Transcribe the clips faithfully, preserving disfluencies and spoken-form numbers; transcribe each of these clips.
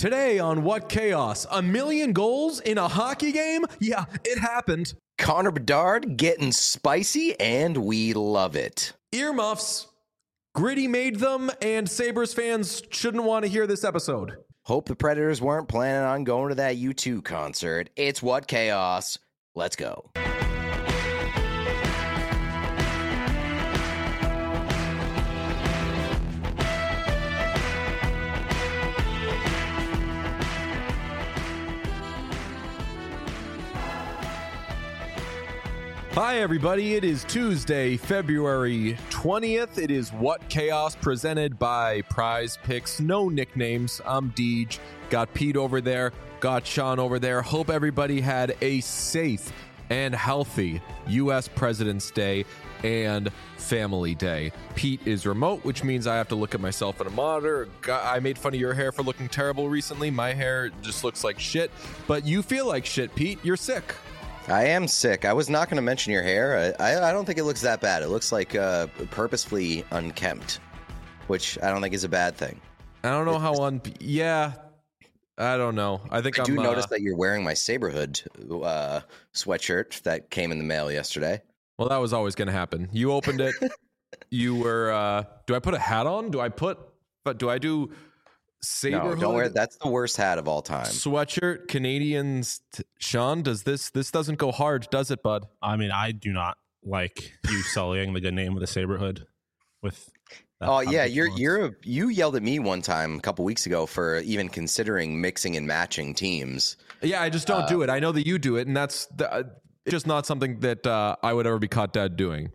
Today on What Chaos, a million goals in a hockey game? Yeah, it happened. Connor Bedard getting spicy, and we love it. Earmuffs. Gritty made them, and Sabres fans shouldn't want to hear this episode. Hope the Predators weren't planning on going to that U two concert. It's What Chaos. Let's go. Hi, everybody. It is Tuesday, February twentieth. It is What Chaos presented by Prize Picks. No nicknames. I'm Deej. Got Pete over there. Got Sean over there. Hope everybody had a safe and healthy U S President's Day and Family Day. Pete is remote, which means I have to look at myself in a monitor. I made fun of your hair for looking terrible recently. My hair just looks like shit. But you feel like shit, Pete. You're sick. I am sick. I was not going to mention your hair. I, I don't think it looks that bad. It looks like uh, purposefully unkempt, which I don't think is a bad thing. I don't know how un... Yeah, I don't know. I think I I'm, do uh... notice that you're wearing my Saberhood uh, sweatshirt that came in the mail yesterday. Well, that was always going to happen. You opened it. You were... Uh... Do I put a hat on? Do I put... But do I do... Saberhood, no, don't wear. That's the worst hat of all time. Sweatshirt, Canadians. T- Sean, does this this doesn't go hard, does it, bud? I mean, I do not like you sullying the good name of the Saberhood with. That oh yeah, you're you're a, you yelled at me one time a couple weeks ago for even considering mixing and matching teams. Yeah, I just don't uh, do it. I know that you do it, and that's the, uh, just not something that uh, I would ever be caught dead doing.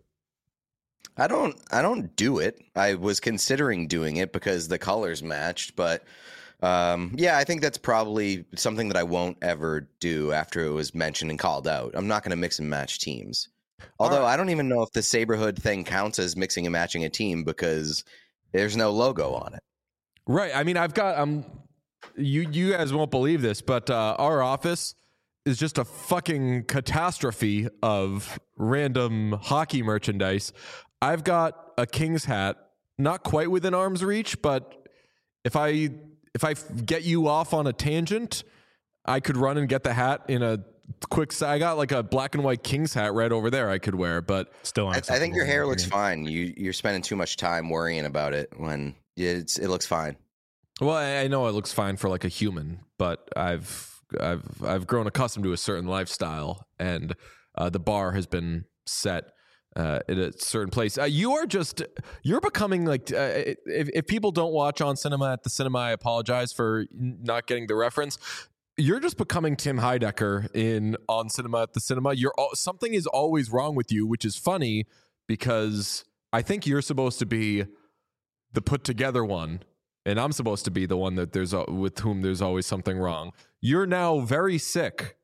I don't I don't do it. I was considering doing it because the colors matched, but um, yeah, I think that's probably something that I won't ever do after it was mentioned and called out. I'm not going to mix and match teams. Although right. I don't even know if the Saberhood thing counts as mixing and matching a team because there's no logo on it. Right. I mean, I've got um you you guys won't believe this, but uh, our office is just a fucking catastrophe of random hockey merchandise. I've got a Kings hat, not quite within arm's reach, but if I if I get you off on a tangent, I could run and get the hat in a quick. I got like a black and white Kings hat right over there I could wear, but still, I, I think your hair looks fine. You you're spending too much time worrying about it when it's it looks fine. Well, I, I know it looks fine for like a human, but I've I've I've grown accustomed to a certain lifestyle, and uh, the bar has been set. Uh, at a certain place. Uh, you are just, you're becoming like, uh, if, if people don't watch On Cinema at the Cinema, I apologize for not getting the reference. You're just becoming Tim Heidecker in On Cinema at the Cinema. You're something is always wrong with you, which is funny because I think you're supposed to be the put together one. And I'm supposed to be the one that there's, with whom there's always something wrong. You're now very sick.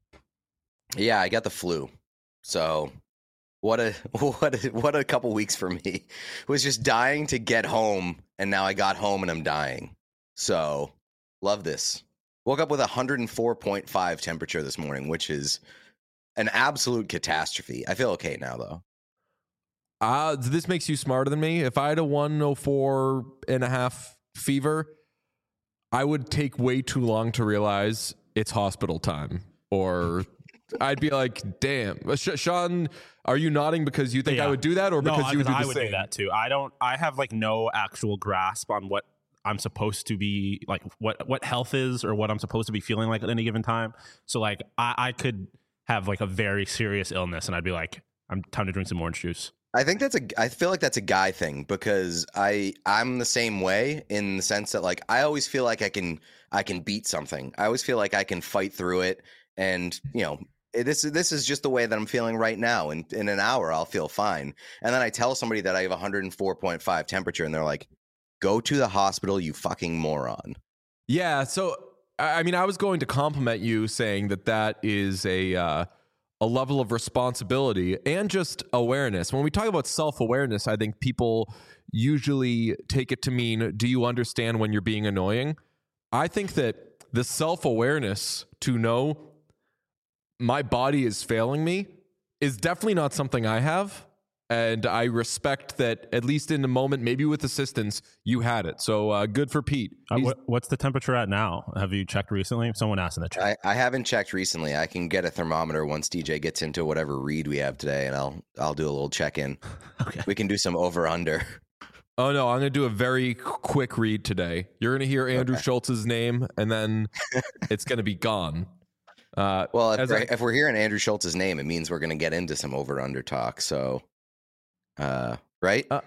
Yeah, I got the flu. So... What a what a, what a couple weeks for me. Was just dying to get home, and now I got home and I'm dying. So, love this. Woke up with one hundred four point five temperature this morning, which is an absolute catastrophe. I feel okay now, though. Uh, this makes you smarter than me. If I had a one oh four and a half fever, I would take way too long to realize it's hospital time. Or I'd be like, damn. Sean... Are you nodding because you think yeah. I would do that, or because no, you would do the I same? would do that too. I don't. I have like no actual grasp on what I'm supposed to be like, what what health is, or what I'm supposed to be feeling like at any given time. So like, I, I could have like a very serious illness, and I'd be like, I'm time to drink some orange juice. I think that's a. I feel like that's a guy thing because I I'm the same way in the sense that like I always feel like I can I can beat something. I always feel like I can fight through it, and you know. This this is just the way that I'm feeling right now. And in an hour, I'll feel fine. And then I tell somebody that I have one hundred four point five temperature, and they're like, "Go to the hospital, you fucking moron." Yeah. So I mean, I was going to compliment you, saying that that is a uh, a level of responsibility and just awareness. When we talk about self-awareness, I think people usually take it to mean, "Do you understand when you're being annoying?" I think that the self-awareness to know my body is failing me is definitely not something I have. And I respect that, at least in the moment, maybe with assistance, you had it. So uh, good for Pete. Uh, what, what's the temperature at now? Have you checked recently? Someone asked in the chat. I, I haven't checked recently. I can get a thermometer once D J gets into whatever read we have today, and I'll I'll do a little check in. Okay. We can do some over under. Oh, no, I'm going to do a very quick read today. You're going to hear Andrew Okay. Schultz's name, and then it's going to be gone. Uh, Well, if we're, I, if we're hearing Andrew Schultz's name, it means we're going to get into some over under talk. So, uh, right? Uh,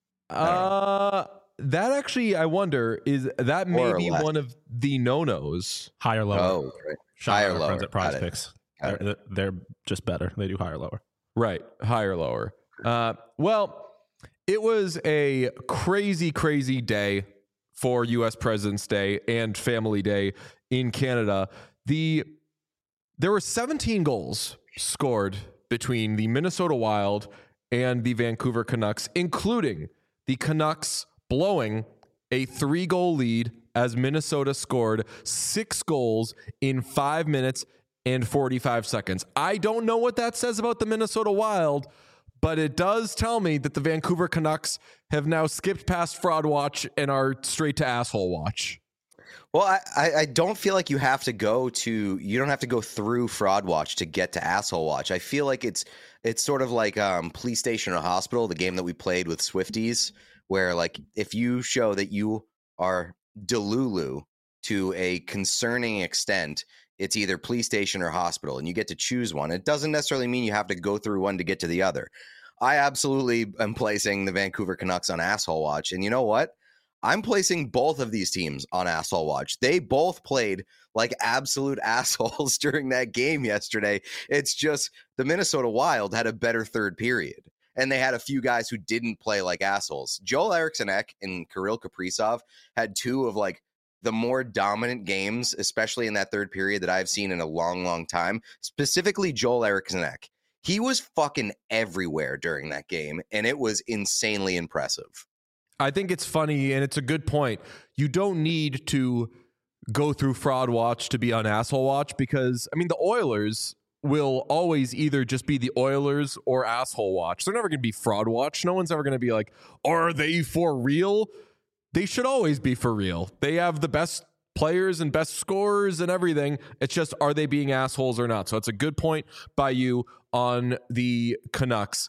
uh, that actually, I wonder, is that More or maybe less. one of the no-nos? Higher, lower. Oh, right. Shout higher, out our friends lower. at Prize Got it. Picks. Got They're, they're just better. They do higher, lower. Right, higher, lower. Uh, well, it was a crazy, crazy day for U S President's Day and Family Day in Canada. The there were seventeen goals scored between the Minnesota Wild and the Vancouver Canucks, including the Canucks blowing a three-goal lead as Minnesota scored six goals in five minutes and forty-five seconds. I don't know what that says about the Minnesota Wild, but it does tell me that the Vancouver Canucks have now skipped past fraud watch and are straight to asshole watch. Well, I, I, I don't feel like you have to go to you don't have to go through fraud watch to get to asshole watch. I feel like it's it's sort of like um, Police Station or Hospital, the game that we played with Swifties, where like if you show that you are Delulu to a concerning extent, it's either police station or hospital, and you get to choose one. It doesn't necessarily mean you have to go through one to get to the other. I absolutely am placing the Vancouver Canucks on asshole watch. And you know what? I'm placing both of these teams on asshole watch. They both played like absolute assholes during that game yesterday. It's just the Minnesota Wild had a better third period, and they had a few guys who didn't play like assholes. Joel Eriksson-Ek and Kirill Kaprizov had two of like the more dominant games, especially in that third period, that I've seen in a long, long time. Specifically, Joel Eriksson-Ek. He was fucking everywhere during that game, and it was insanely impressive. I think it's funny, and it's a good point. You don't need to go through fraud watch to be on asshole watch, because, I mean, the Oilers will always either just be the Oilers or asshole watch. They're never going to be fraud watch. No one's ever going to be like, are they for real? They should always be for real. They have the best players and best scorers and everything. It's just, are they being assholes or not? So it's a good point by you on the Canucks.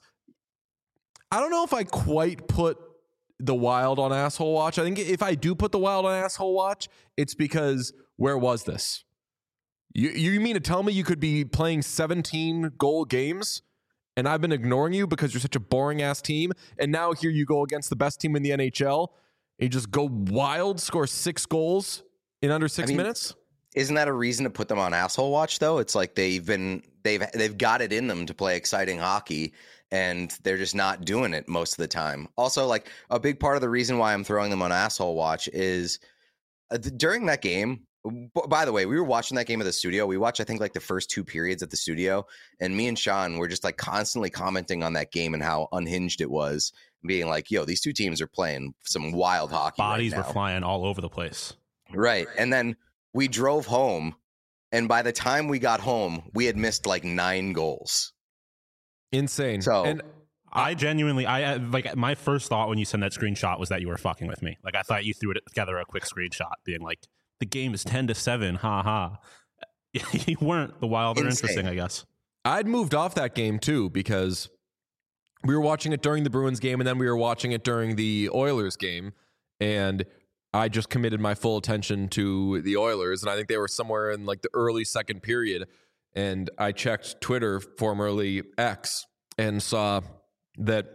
I don't know if I quite put the Wild on asshole watch. I think if I do put the Wild on asshole watch, it's because where was this? You you mean to tell me you could be playing seventeen goal games and I've been ignoring you because you're such a boring ass team, and now here you go against the best team in the N H L and you just go wild, score six goals in under six I mean, minutes? Isn't that a reason to put them on asshole watch, though? It's like they've been they've they've got it in them to play exciting hockey, and they're just not doing it most of the time. Also, like a big part of the reason why I'm throwing them on asshole watch is uh, th- during that game. B- by the way, we were watching that game at the studio. We watched, I think, like the first two periods at the studio, and me and Sean were just like constantly commenting on that game and how unhinged it was, being like, "Yo, these two teams are playing some wild hockey." Bodies right were now. flying all over the place. Right. And then we drove home, and by the time we got home, we had missed like nine goals. Insane. So- and I genuinely, I like my first thought when you sent that screenshot was that you were fucking with me. Like I thought you threw it together a quick screenshot, being like, "The game is ten to seven, ha ha." You weren't. The Wild are Insane. interesting, I guess. I'd moved off that game too, because we were watching it during the Bruins game, and then we were watching it during the Oilers game, and I just committed my full attention to the Oilers, and I think they were somewhere in like the early second period, and I checked Twitter, formerly X, and saw that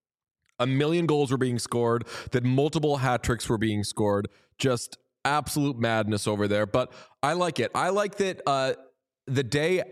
a million goals were being scored, that multiple hat tricks were being scored, just absolute madness over there. But I like it. I like that uh, the day,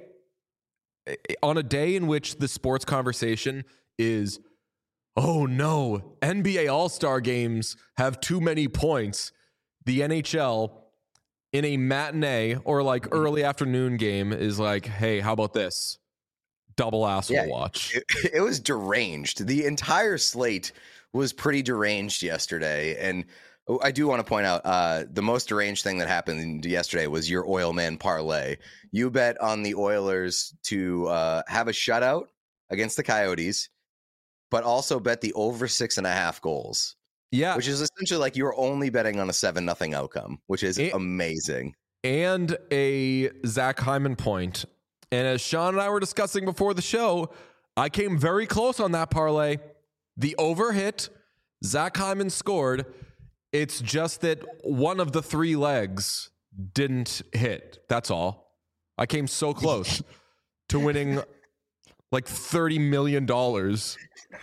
on a day in which the sports conversation is, oh no, N B A All-Star games have too many points, the N H L in a matinee or like early afternoon game is like, hey, how about this? Double asshole Yeah, watch. It, it was deranged. The entire slate was pretty deranged yesterday. And I do want to point out uh, the most deranged thing that happened yesterday was your oil man parlay. You bet on the Oilers to uh, have a shutout against the Coyotes, but also bet the over six and a half goals. Yeah. Which is essentially like you're only betting on a seven nothing outcome, which is and, amazing. And a Zach Hyman point. And as Sean and I were discussing before the show, I came very close on that parlay. The over hit. Zach Hyman scored. It's just that one of the three legs didn't hit. That's all. I came so close to winning like thirty million dollars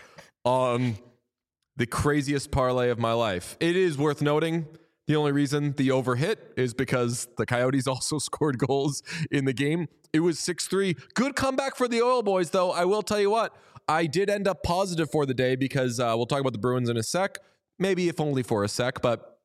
on the craziest parlay of my life. It is worth noting, the only reason the over hit is because the Coyotes also scored goals in the game. It was six three. Good comeback for the Oil Boys, though. I will tell you what, I did end up positive for the day because uh, we'll talk about the Bruins in a sec. Maybe if only for a sec, but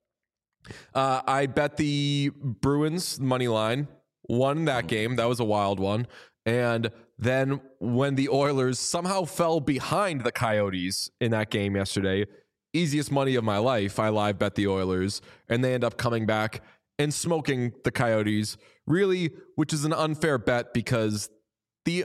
uh, I bet the Bruins money line, won that game. That was a wild one. And then when the Oilers somehow fell behind the Coyotes in that game yesterday, easiest money of my life, I live bet the Oilers, and they end up coming back and smoking the Coyotes, really, which is an unfair bet because the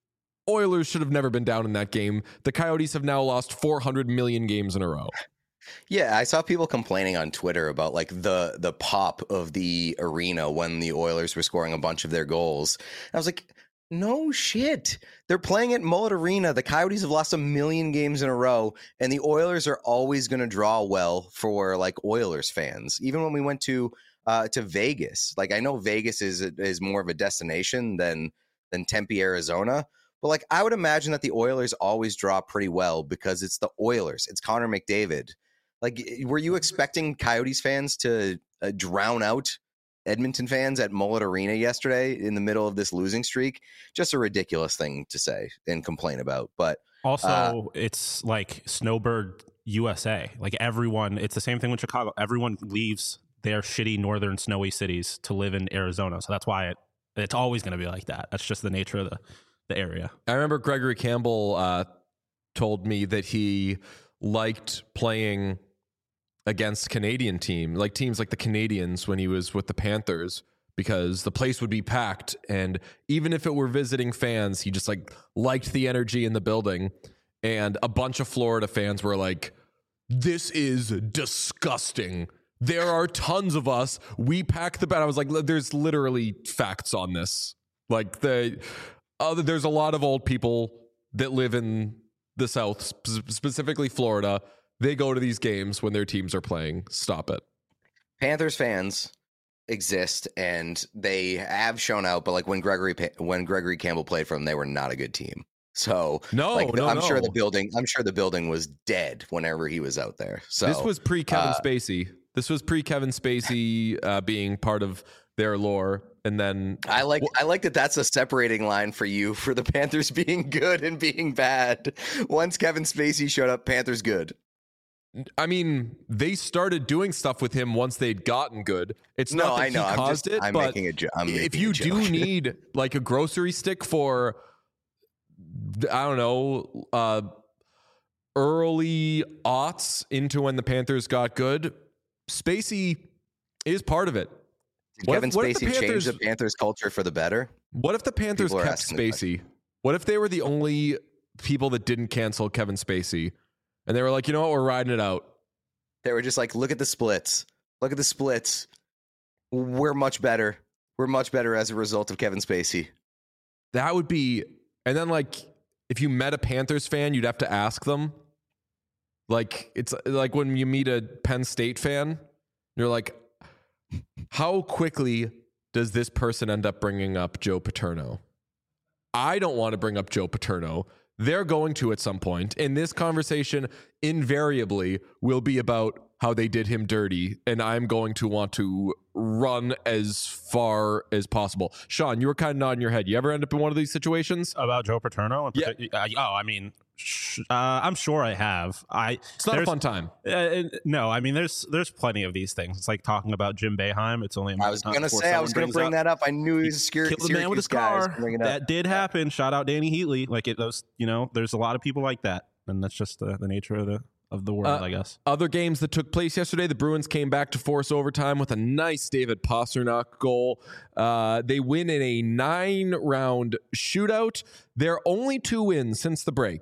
Oilers should have never been down in that game. The Coyotes have now lost four hundred million games in a row. Yeah, I saw people complaining on Twitter about like the the pop of the arena when the Oilers were scoring a bunch of their goals. And I was like, no shit. They're playing at Mullet Arena. The Coyotes have lost a million games in a row, and the Oilers are always going to draw well for like Oilers fans. Even when we went to uh, to Vegas, like I know Vegas is is more of a destination than than Tempe, Arizona, but like I would imagine that the Oilers always draw pretty well because it's the Oilers. It's Connor McDavid. Like, were you expecting Coyotes fans to uh, drown out Edmonton fans at Mullet Arena yesterday in the middle of this losing streak? Just a ridiculous thing to say and complain about. But also, uh, it's like Snowbird U S A. Like everyone, it's the same thing with Chicago. Everyone leaves their shitty northern snowy cities to live in Arizona. So that's why it, it's always going to be like that. That's just the nature of the, the area. I remember Gregory Campbell uh, told me that he liked playing against Canadian team, like teams like the Canadians when he was with the Panthers, because the place would be packed. And even if it were visiting fans, he just like liked the energy in the building. And a bunch of Florida fans were like, this is disgusting. There are tons of us. We pack the bed. I was like, there's literally facts on this. Like the other, there's a lot of old people that live in the South, sp- specifically Florida. They go to these games when their teams are playing. Stop it. Panthers fans exist and they have shown out, but like when Gregory when Gregory Campbell played for them, they were not a good team. So no, like, no I'm no. sure the building I'm sure the building was dead whenever he was out there. So this was pre Kevin uh, Spacey. This was pre Kevin Spacey uh, being part of their lore. And then I like I like that that's a separating line for you for the Panthers being good and being bad. Once Kevin Spacey showed up, Panthers good. I mean, they started doing stuff with him once they'd gotten good. It's no, not that I know. he I'm caused just, it, I'm but making a jo- I'm if making you a do joke. need like a grocery stick for, I don't know, uh, early aughts into when the Panthers got good, Spacey is part of it. Did What Kevin if- what if Spacey the Panthers- changed the Panthers culture for the better? What if the Panthers People are kept asking the Spacey? What if they were the only people that didn't cancel Kevin Spacey? And they were like, you know what, we're riding it out. They were just like, look at the splits. Look at the splits. We're much better. We're much better as a result of Kevin Spacey. That would be, and then like, if you met a Panthers fan, you'd have to ask them. Like, it's like when you meet a Penn State fan, you're like, how quickly does this person end up bringing up Joe Paterno? I don't want to bring up Joe Paterno. They're going to at some point, and this conversation invariably will be about how they did him dirty, and I'm going to want to run as far as possible. Sean, you were kind of nodding your head. You ever end up in one of these situations? About Joe Paterno? Yeah. Uh, oh, I mean, sh- uh, I'm sure I have. I. It's not a there's- fun time. Uh, no, I mean, there's there's plenty of these things. It's like talking about Jim Boeheim. It's only a I was time going to before say, I someone was going to brings bring up- that up. I knew he was a Syr- Killed the man with his Syracuse guy. I was car. bringing it up. That did happen. Shout out Danny Heatley. Like it, those, you know, there's a lot of people like that, and that's just the, the nature of the of the world, Uh, I guess. Other games that took place yesterday, the Bruins came back to force overtime with a nice David Pastrnak goal. Uh, they win in a nine-round shootout. Their only two wins since the break.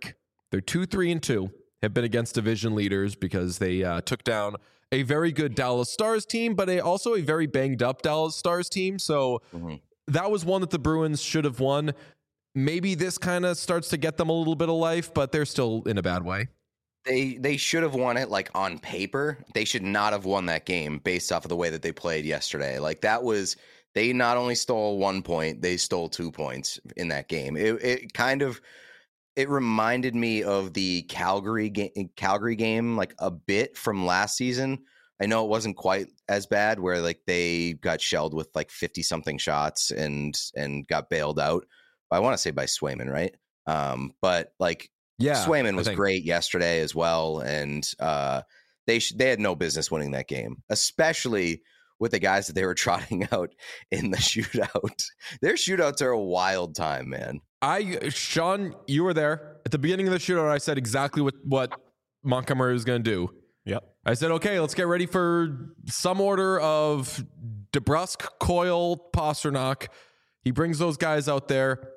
They're two, three, and two. Have been against division leaders because they uh, took down a very good Dallas Stars team, but a, also a very banged up Dallas Stars team. So mm-hmm. that was one that the Bruins should have won. Maybe this kind of starts to get them a little bit of life, but they're still in a bad way. They they should have won it like on paper. They should not have won that game based off of the way that they played yesterday. Like that was, they not only stole one point, they stole two points in that game. It, it kind of, it reminded me of the Calgary game, Calgary game like a bit from last season. I know it wasn't quite as bad where like they got shelled with like fifty something shots and and got bailed out. I want to say by Swayman, right? Um, but like yeah, Swayman was great yesterday as well, and uh, they sh- they had no business winning that game, especially with the guys that they were trotting out in the shootout. Their shootouts are a wild time, man. I, Sean, you were there at the beginning of the shootout. I said exactly what, what Montgomery was going to do. Yep. I said, okay, let's get ready for some order of DeBrusk, Coyle, Pastrnak. He brings those guys out there.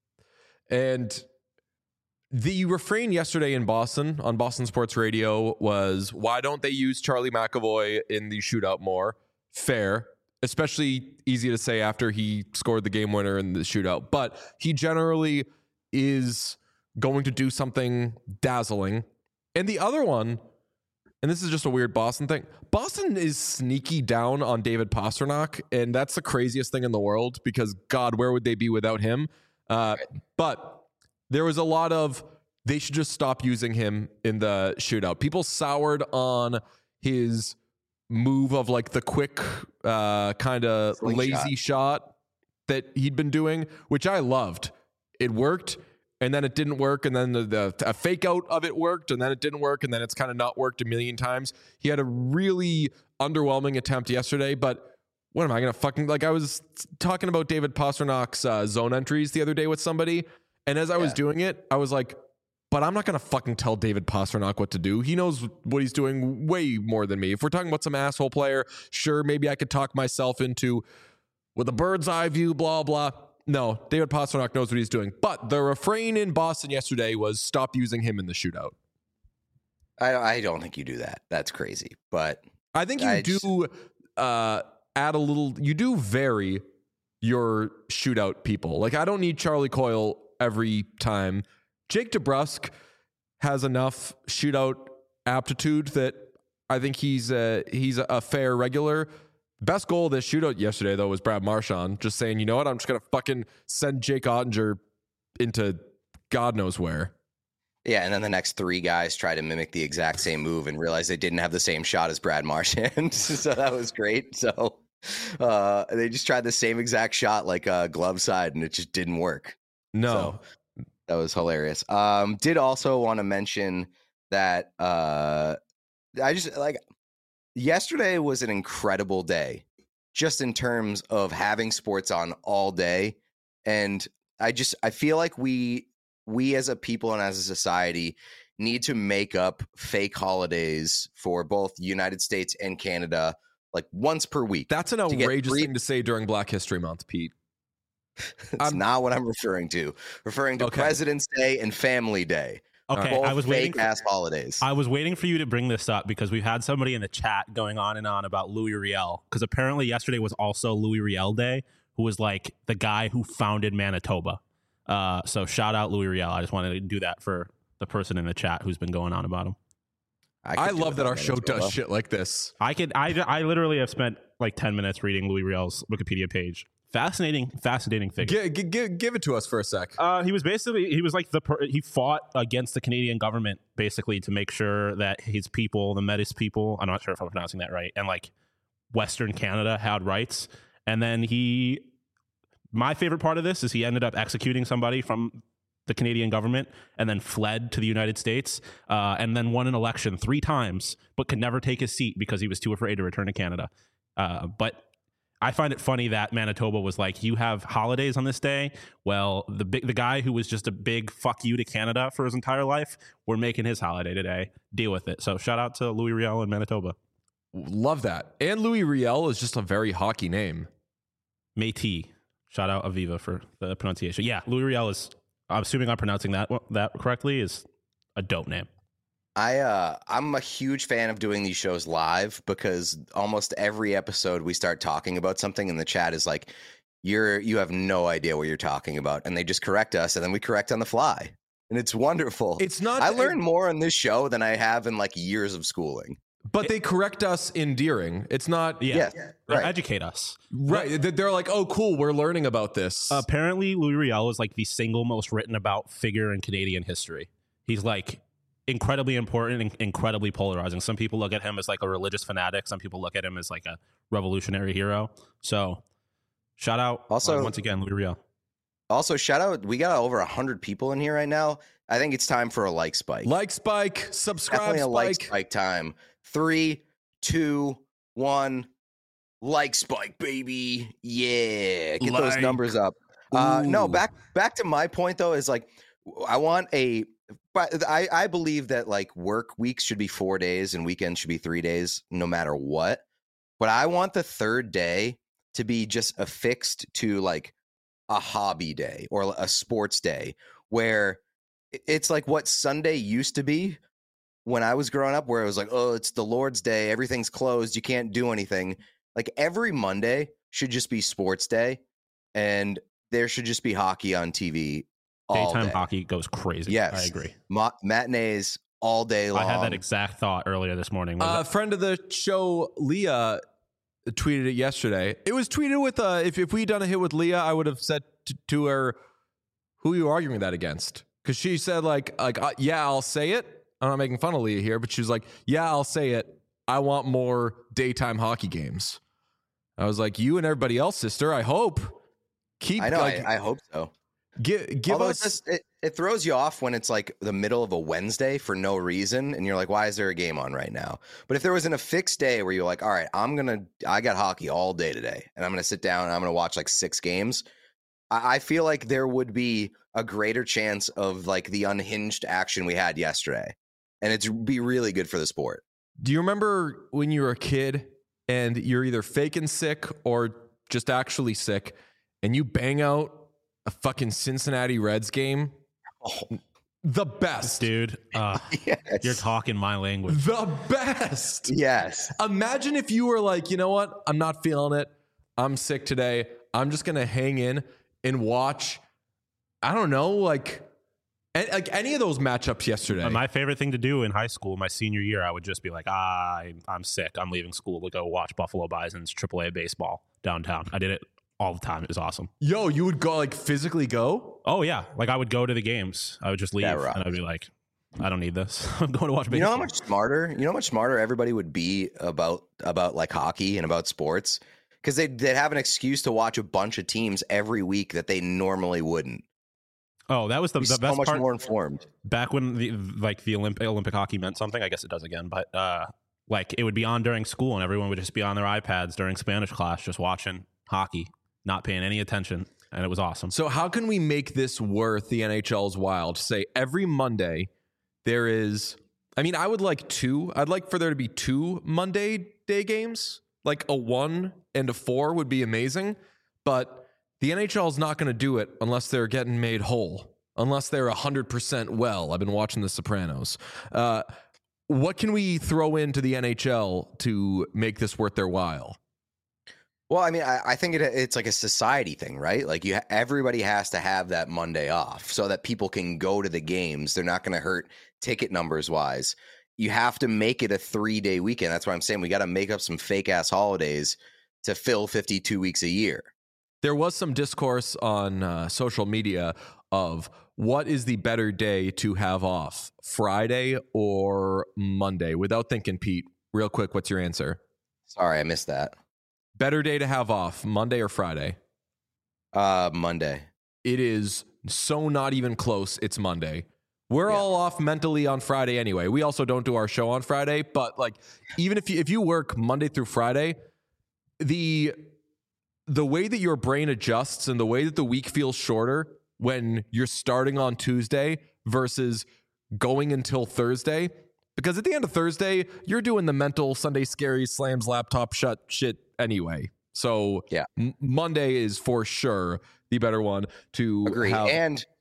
And the refrain yesterday in Boston on Boston Sports Radio was, why don't they use Charlie McAvoy in the shootout more? Fair. Especially easy to say after he scored the game winner in the shootout. But he generally is going to do something dazzling. And the other one, and this is just a weird Boston thing, Boston is sneaky down on David Pastrnak, and that's the craziest thing in the world because, God, where would they be without him? Uh, but there was a lot of, they should just stop using him in the shootout. People soured on his move of like the quick uh, kind of lazy shot that he'd been doing, which I loved. It worked, and then it didn't work, and then the, the a fake out of it worked, and then it didn't work, and then it's kind of not worked a million times. He had a really underwhelming attempt yesterday, but what am I going to fucking, like I was talking about David Pasternak's uh, zone entries the other day with somebody, and as I yeah. was doing it, I was like, but I'm not going to fucking tell David Pastrnak what to do. He knows what he's doing way more than me. If we're talking about some asshole player, sure, maybe I could talk myself into with a bird's eye view, blah, blah. No, David Pastrnak knows what he's doing. But the refrain in Boston yesterday was stop using him in the shootout. I, I don't think you do that. That's crazy. But I think you I do just... uh, add a little, you do vary your shootout people. Like, I don't need Charlie Coyle every time. Jake DeBrusk has enough shootout aptitude that I think he's a, he's a fair regular. Best goal of this shootout yesterday, though, was Brad Marchand just saying, you know what, I'm just going to fucking send Jake Ottinger into God knows where. Yeah, and then the next three guys try to mimic the exact same move and realize they didn't have the same shot as Brad Marchand. So that was great. So uh, they just tried the same exact shot like a uh, glove side, and it just didn't work. No. So, that was hilarious. Um, did also want to mention that uh, I just like yesterday was an incredible day just in terms of having sports on all day. And I just I feel like we we as a people and as a society need to make up fake holidays for both the United States and Canada like once per week. That's an outrageous thing to say during Black History Month, Pete. That's not what I'm referring to. Referring to okay. President's Day and Family Day. Okay, I was waiting for ass holidays. I was waiting for you to bring this up because we've had somebody in the chat going on and on about Louis Riel, because apparently yesterday was also Louis Riel Day, who was like the guy who founded Manitoba. Uh, so shout out Louis Riel. I just wanted to do that for the person in the chat who's been going on about him. I, I love that our show does shit like this. I could. I I literally have spent like ten minutes reading Louis Riel's Wikipedia page. Fascinating, fascinating figure. Give, give, give it to us for a sec. Uh, he was basically, he was like the, per, he fought against the Canadian government basically to make sure that his people, the Métis people, I'm not sure if I'm pronouncing that right, and like Western Canada had rights. And then he, my favorite part of this is he ended up executing somebody from the Canadian government and then fled to the United States uh, and then won an election three times, but could never take his seat because he was too afraid to return to Canada. Uh, but I find it funny that Manitoba was like, you have holidays on this day. Well, the big, the guy who was just a big fuck you to Canada for his entire life, we're making his holiday today. Deal with it. So shout out to Louis Riel in Manitoba. Love that. And Louis Riel is just a very hockey name. Métis. Shout out Aviva for the pronunciation. Yeah, Louis Riel is, I'm assuming I'm pronouncing that that correctly, is a dope name. I uh I'm a huge fan of doing these shows live because almost every episode we start talking about something and the chat is like, you're you have no idea what you're talking about, and they just correct us and then we correct on the fly. And it's wonderful. It's not. I learned more on this show than I have in like years of schooling. But they correct us endearing. It's not. Yeah, Yes, They right. educate us. Right. They- They're like, oh, cool, we're learning about this. Apparently, Louis Riel is like the single most written about figure in Canadian history. He's like incredibly important and incredibly polarizing. Some people look at him as like a religious fanatic. Some people look at him as like a revolutionary hero. So, shout out Also- uh, once again, Louis Riel. Also, shout out, we got over one hundred people in here right now. I think it's time for a like spike. like spike, subscribe Definitely a spike. like spike time. Three, two, one. Like spike, baby. Yeah. Get those Like. numbers up. Uh, no, Ooh. back back to my point though, is like I want a but I, I believe that like work weeks should be four days and weekends should be three days, no matter what. But I want the third day to be just affixed to like a hobby day or a sports day where it's like what Sunday used to be when I was growing up, where it was like, oh, it's the Lord's Day, everything's closed, you can't do anything. Like every Monday should just be sports day, and there should just be hockey on T V all Daytime day. hockey goes crazy. Yes, I agree. Ma- matinees all day long. I had that exact thought earlier this morning. Was A it- friend of the show, Leah, tweeted it yesterday. It was tweeted with, uh, if, if we'd done a hit with Leah, I would have said to, to her, who are you arguing that against? Because she said, like, like uh, yeah, I'll say it. I'm not making fun of Leah here, but she was like, yeah, I'll say it. I want more daytime hockey games. I was like, you and everybody else, sister, I hope. Keep, I know. like, I, I hope so. give, give Although us. it, just, it, it throws you off when it's like the middle of a Wednesday for no reason, and you're like, "Why is there a game on right now?" But if there was an a fixed day where you're like, "All right, I'm gonna, I got hockey all day today, and I'm gonna sit down and I'm gonna watch like six games," I, I feel like there would be a greater chance of like the unhinged action we had yesterday, and it'd be really good for the sport. Do you remember when you were a kid and you're either faking sick or just actually sick, and you bang out a fucking Cincinnati Reds game? Oh, The best. dude, uh, yes, you're talking my language. The best. yes. Imagine if you were like, you know what? I'm not feeling it. I'm sick today. I'm just going to hang in and watch, I don't know, like, a- like any of those matchups yesterday. Uh, My favorite thing to do in high school, my senior year, I would just be like, ah, I, I'm sick. I'm leaving school to go watch Buffalo Bison's triple A baseball downtown. I did it all the time. It was awesome. Yo, you would go like physically go? Oh, yeah. Like I would go to the games. I would just leave That rocks. and I'd be like, I don't need this. I'm going to watch baseball. You know how much smarter, you know how much smarter everybody would be about about like hockey and about sports, because they they'd have an excuse to watch a bunch of teams every week that they normally wouldn't. Oh, that was the, Be the so best much part. more informed. Back when the like the Olympic Olympic hockey meant something. I guess it does again, but uh, like it would be on during school, and everyone would just be on their iPads during Spanish class, just watching hockey, not paying any attention, and it was awesome. So how can we make this worth the N H L's while? To say every Monday there is, I mean, I would like two. I'd like for there to be two Monday day games. Like a one and a four would be amazing. But the N H L is not going to do it unless they're getting made whole, unless they're one hundred percent well. I've been watching The Sopranos. Uh, what can we throw into the N H L to make this worth their while? Well, I mean, I, I think it, it's like a society thing, right? Like you, ha- everybody has to have that Monday off so that people can go to the games. They're not going to hurt ticket numbers wise. You have to make it a three day weekend. That's why I'm saying we got to make up some fake ass holidays to fill fifty-two weeks a year. There was some discourse on uh, social media of what is the better day to have off, Friday or Monday? Without thinking, Pete, real quick, what's your answer? Sorry, I missed that. Better day to have off, Monday or Friday? Uh, Monday. It is so not even close. It's Monday. We're Yeah. all off mentally on Friday anyway. We also don't do our show on Friday, but like even if you if you work Monday through Friday, the the way that your brain adjusts and the way that the week feels shorter when you're starting on Tuesday versus going until Thursday, because at the end of Thursday, you're doing the mental Sunday scary slams laptop shut shit anyway. So Yeah. M- Monday is for sure the better one to Agree. have. And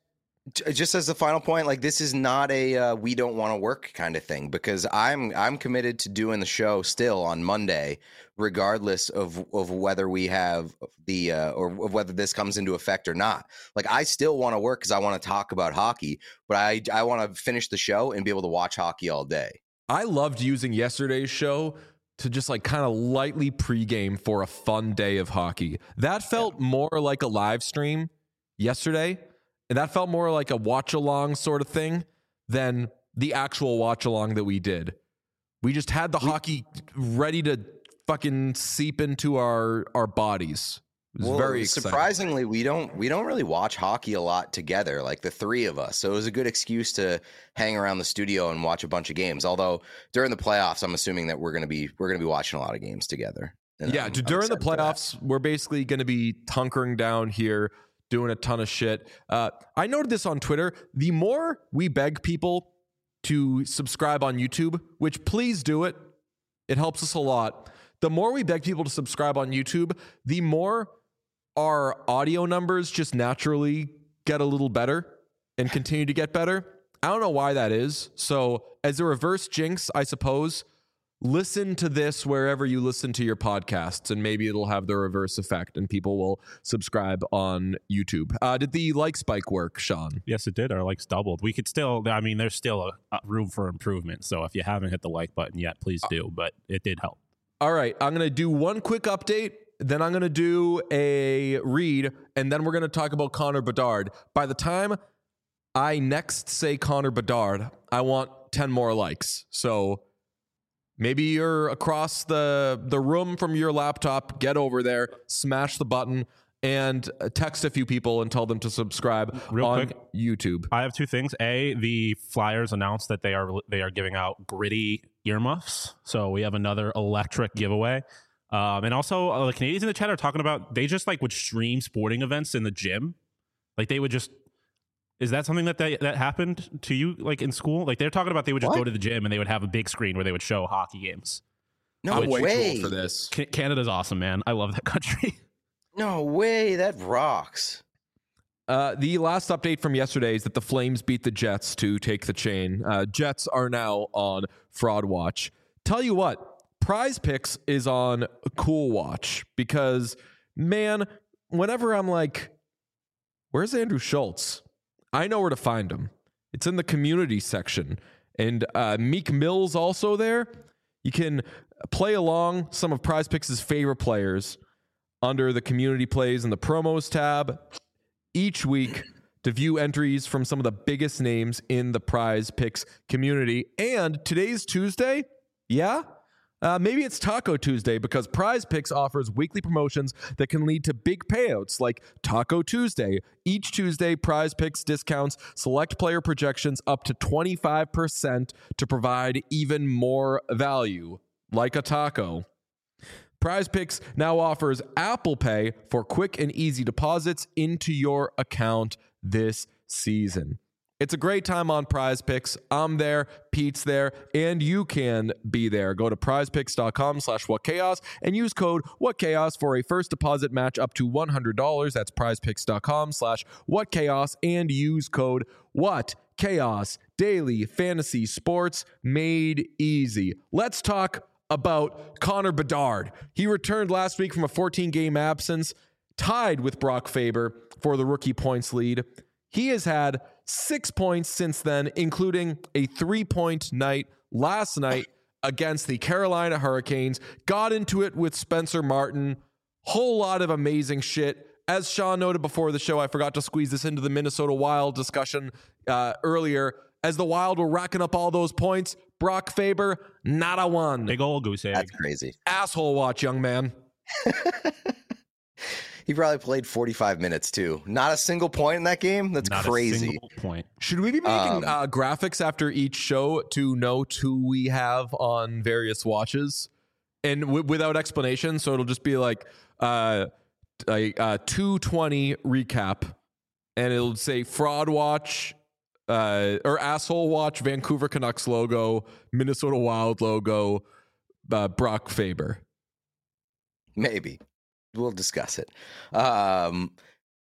J- Just as the final point, like this is not a uh, we don't want to work kind of thing, because I'm I'm committed to doing the show still on Monday, regardless of of whether we have the uh, or of whether this comes into effect or not. Like I still want to work because I want to talk about hockey, but I I want to finish the show and be able to watch hockey all day. I loved using yesterday's show to just like kind of lightly pregame for a fun day of hockey. That felt yeah. more like a live stream yesterday. And that felt more like a watch along sort of thing than the actual watch along that we did. We just had the we, hockey ready to fucking seep into our our bodies. It was well, very exciting. Surprisingly, we don't we don't really watch hockey a lot together, like the three of us. So it was a good excuse to hang around the studio and watch a bunch of games. Although during the playoffs, I'm assuming that we're gonna be we're gonna be watching a lot of games together. And yeah, I'm, during I'm the playoffs, we're basically gonna be hunkering down here, doing a ton of shit. Uh, I noted this on Twitter. The more we beg people to subscribe on YouTube, which please do it, it helps us a lot. The more we beg people to subscribe on YouTube, the more our audio numbers just naturally get a little better and continue to get better. I don't know why that is. So as a reverse jinx, I suppose, listen to this wherever you listen to your podcasts, and maybe it'll have the reverse effect and people will subscribe on YouTube. Uh, did the like spike work, Sean? Yes, it did. Our likes doubled. We could still, I mean, there's still a, a room for improvement. So if you haven't hit the like button yet, please do. But it did help. All right. I'm going to do one quick update. Then I'm going to do a read. And then we're going to talk about Connor Bedard. By the time I next say Connor Bedard, I want ten more likes. So maybe you're across the, the room from your laptop, get over there, smash the button, and text a few people and tell them to subscribe Real on quick, YouTube. I have two things. A, the Flyers announced that they are they are giving out gritty earmuffs. So we have another electric giveaway. Um, and also, uh, the Canadians in the chat are talking about they just like would stream sporting events in the gym. Like they would just... Is that something that they, that happened to you, like in school? Like they're talking about they would just what? go to the gym and they would have a big screen where they would show hockey games. No Which, way cool for this. Canada's awesome, man. I love that country. No way, that rocks. Uh, the last update from yesterday is that the Flames beat the Jets to take the chain. Uh, Jets are now on Fraud Watch. Tell you what, Prize Picks is on Cool Watch because, man, whenever I'm like, where's Andrew Schultz? I know where to find him. It's in the community section. And uh, Meek Mill's also there. You can play along some of Prize Picks' favorite players under the community plays and the promos tab each week to view entries from some of the biggest names in the Prize Picks community. And today's Tuesday. Yeah. Uh, maybe it's Taco Tuesday because Prize Picks offers weekly promotions that can lead to big payouts like Taco Tuesday. Each Tuesday, Prize Picks discounts select player projections up to twenty-five percent to provide even more value, like a taco. Prize Picks now offers Apple Pay for quick and easy deposits into your account this season. It's a great time on Prize Picks. I'm there, Pete's there, and you can be there. Go to prizepicks.com slash whatchaos and use code whatchaos for a first deposit match up to one hundred dollars. That's prizepicks.com slash whatchaos and use code whatchaos. Daily fantasy sports made easy. Let's talk about Connor Bedard. He returned last week from a fourteen-game absence, tied with Brock Faber for the rookie points lead. He has had six points since then, including a three-point night last night against the Carolina Hurricanes. Got into it with Spencer Martin. Whole lot of amazing shit. As Sean noted before the show, I forgot to squeeze this into the Minnesota Wild discussion uh, earlier. As the Wild were racking up all those points, Brock Faber, not a one. Big old goose egg. That's crazy. Asshole watch, young man. He probably played forty-five minutes too. Not a single point in that game. That's Not crazy. A single point. Should we be making Um, uh, graphics after each show to note who we have on various watches, and w- without explanation? So it'll just be like uh, a, a two twenty recap, and it'll say Fraud Watch uh, or Asshole Watch, Vancouver Canucks logo, Minnesota Wild logo, uh, Brock Faber. Maybe. We'll discuss it. Um,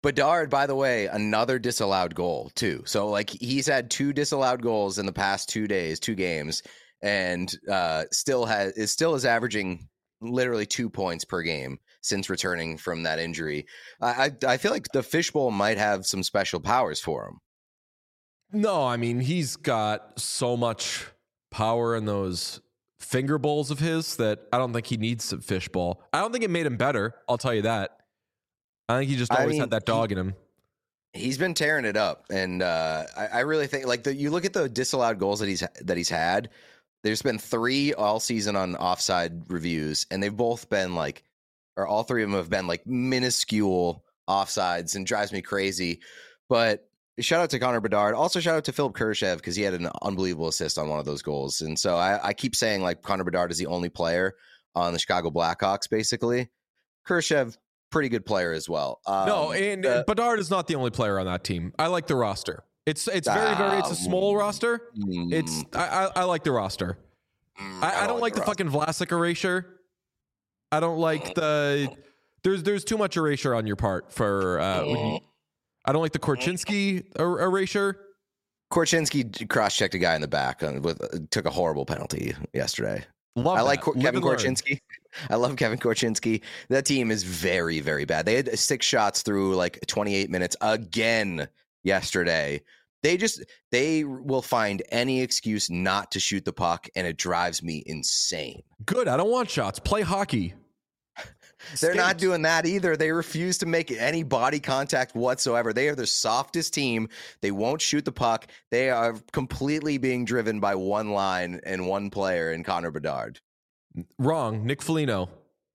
Bedard, by the way, another disallowed goal too. So like he's had two disallowed goals in the past two days, two games, and uh, still has is still is averaging literally two points per game since returning from that injury. I I, I feel like the fishbowl might have some special powers for him. No, I mean he's got so much power in those finger bowls of his that I don't think he needs some fishbowl. I don't think it made him better. I'll tell you that. I think he just always I mean, had that dog he, in him. He's been tearing it up, and uh, I, I really think like the, you look at the disallowed goals that he's that he's had. There's been three all season on offside reviews, and they've both been like, or all three of them have been like minuscule offsides, and drives me crazy. But shout out to Connor Bedard. Also shout out to Philip Kurashev because he had an unbelievable assist on one of those goals. And so I, I keep saying like Connor Bedard is the only player on the Chicago Blackhawks. Basically, Kurashev, pretty good player as well. Um, no, and uh, Bedard is not the only player on that team. I like the roster. It's it's very very it's a small uh, roster. Mm, it's I, I I like the roster. Mm, I, I, don't I don't like, like the, the fucking Vlasic erasure. I don't like the there's there's too much erasure on your part for. Uh, when you, I don't like the Korchinski er- erasure. Korchinski cross-checked a guy in the back and with, uh, took a horrible penalty yesterday. Love I like Kor- Kevin Korchinski. I love Kevin Korchinski. That team is very, very bad. They had six shots through like twenty-eight minutes again yesterday. They just they will find any excuse not to shoot the puck, and it drives me insane. Good. I don't want shots. Play hockey. They're Skate. not doing that either. They refuse to make any body contact whatsoever. They are the softest team. They won't shoot the puck. They are completely being driven by one line and one player in Connor Bedard. Wrong. Nick Foligno.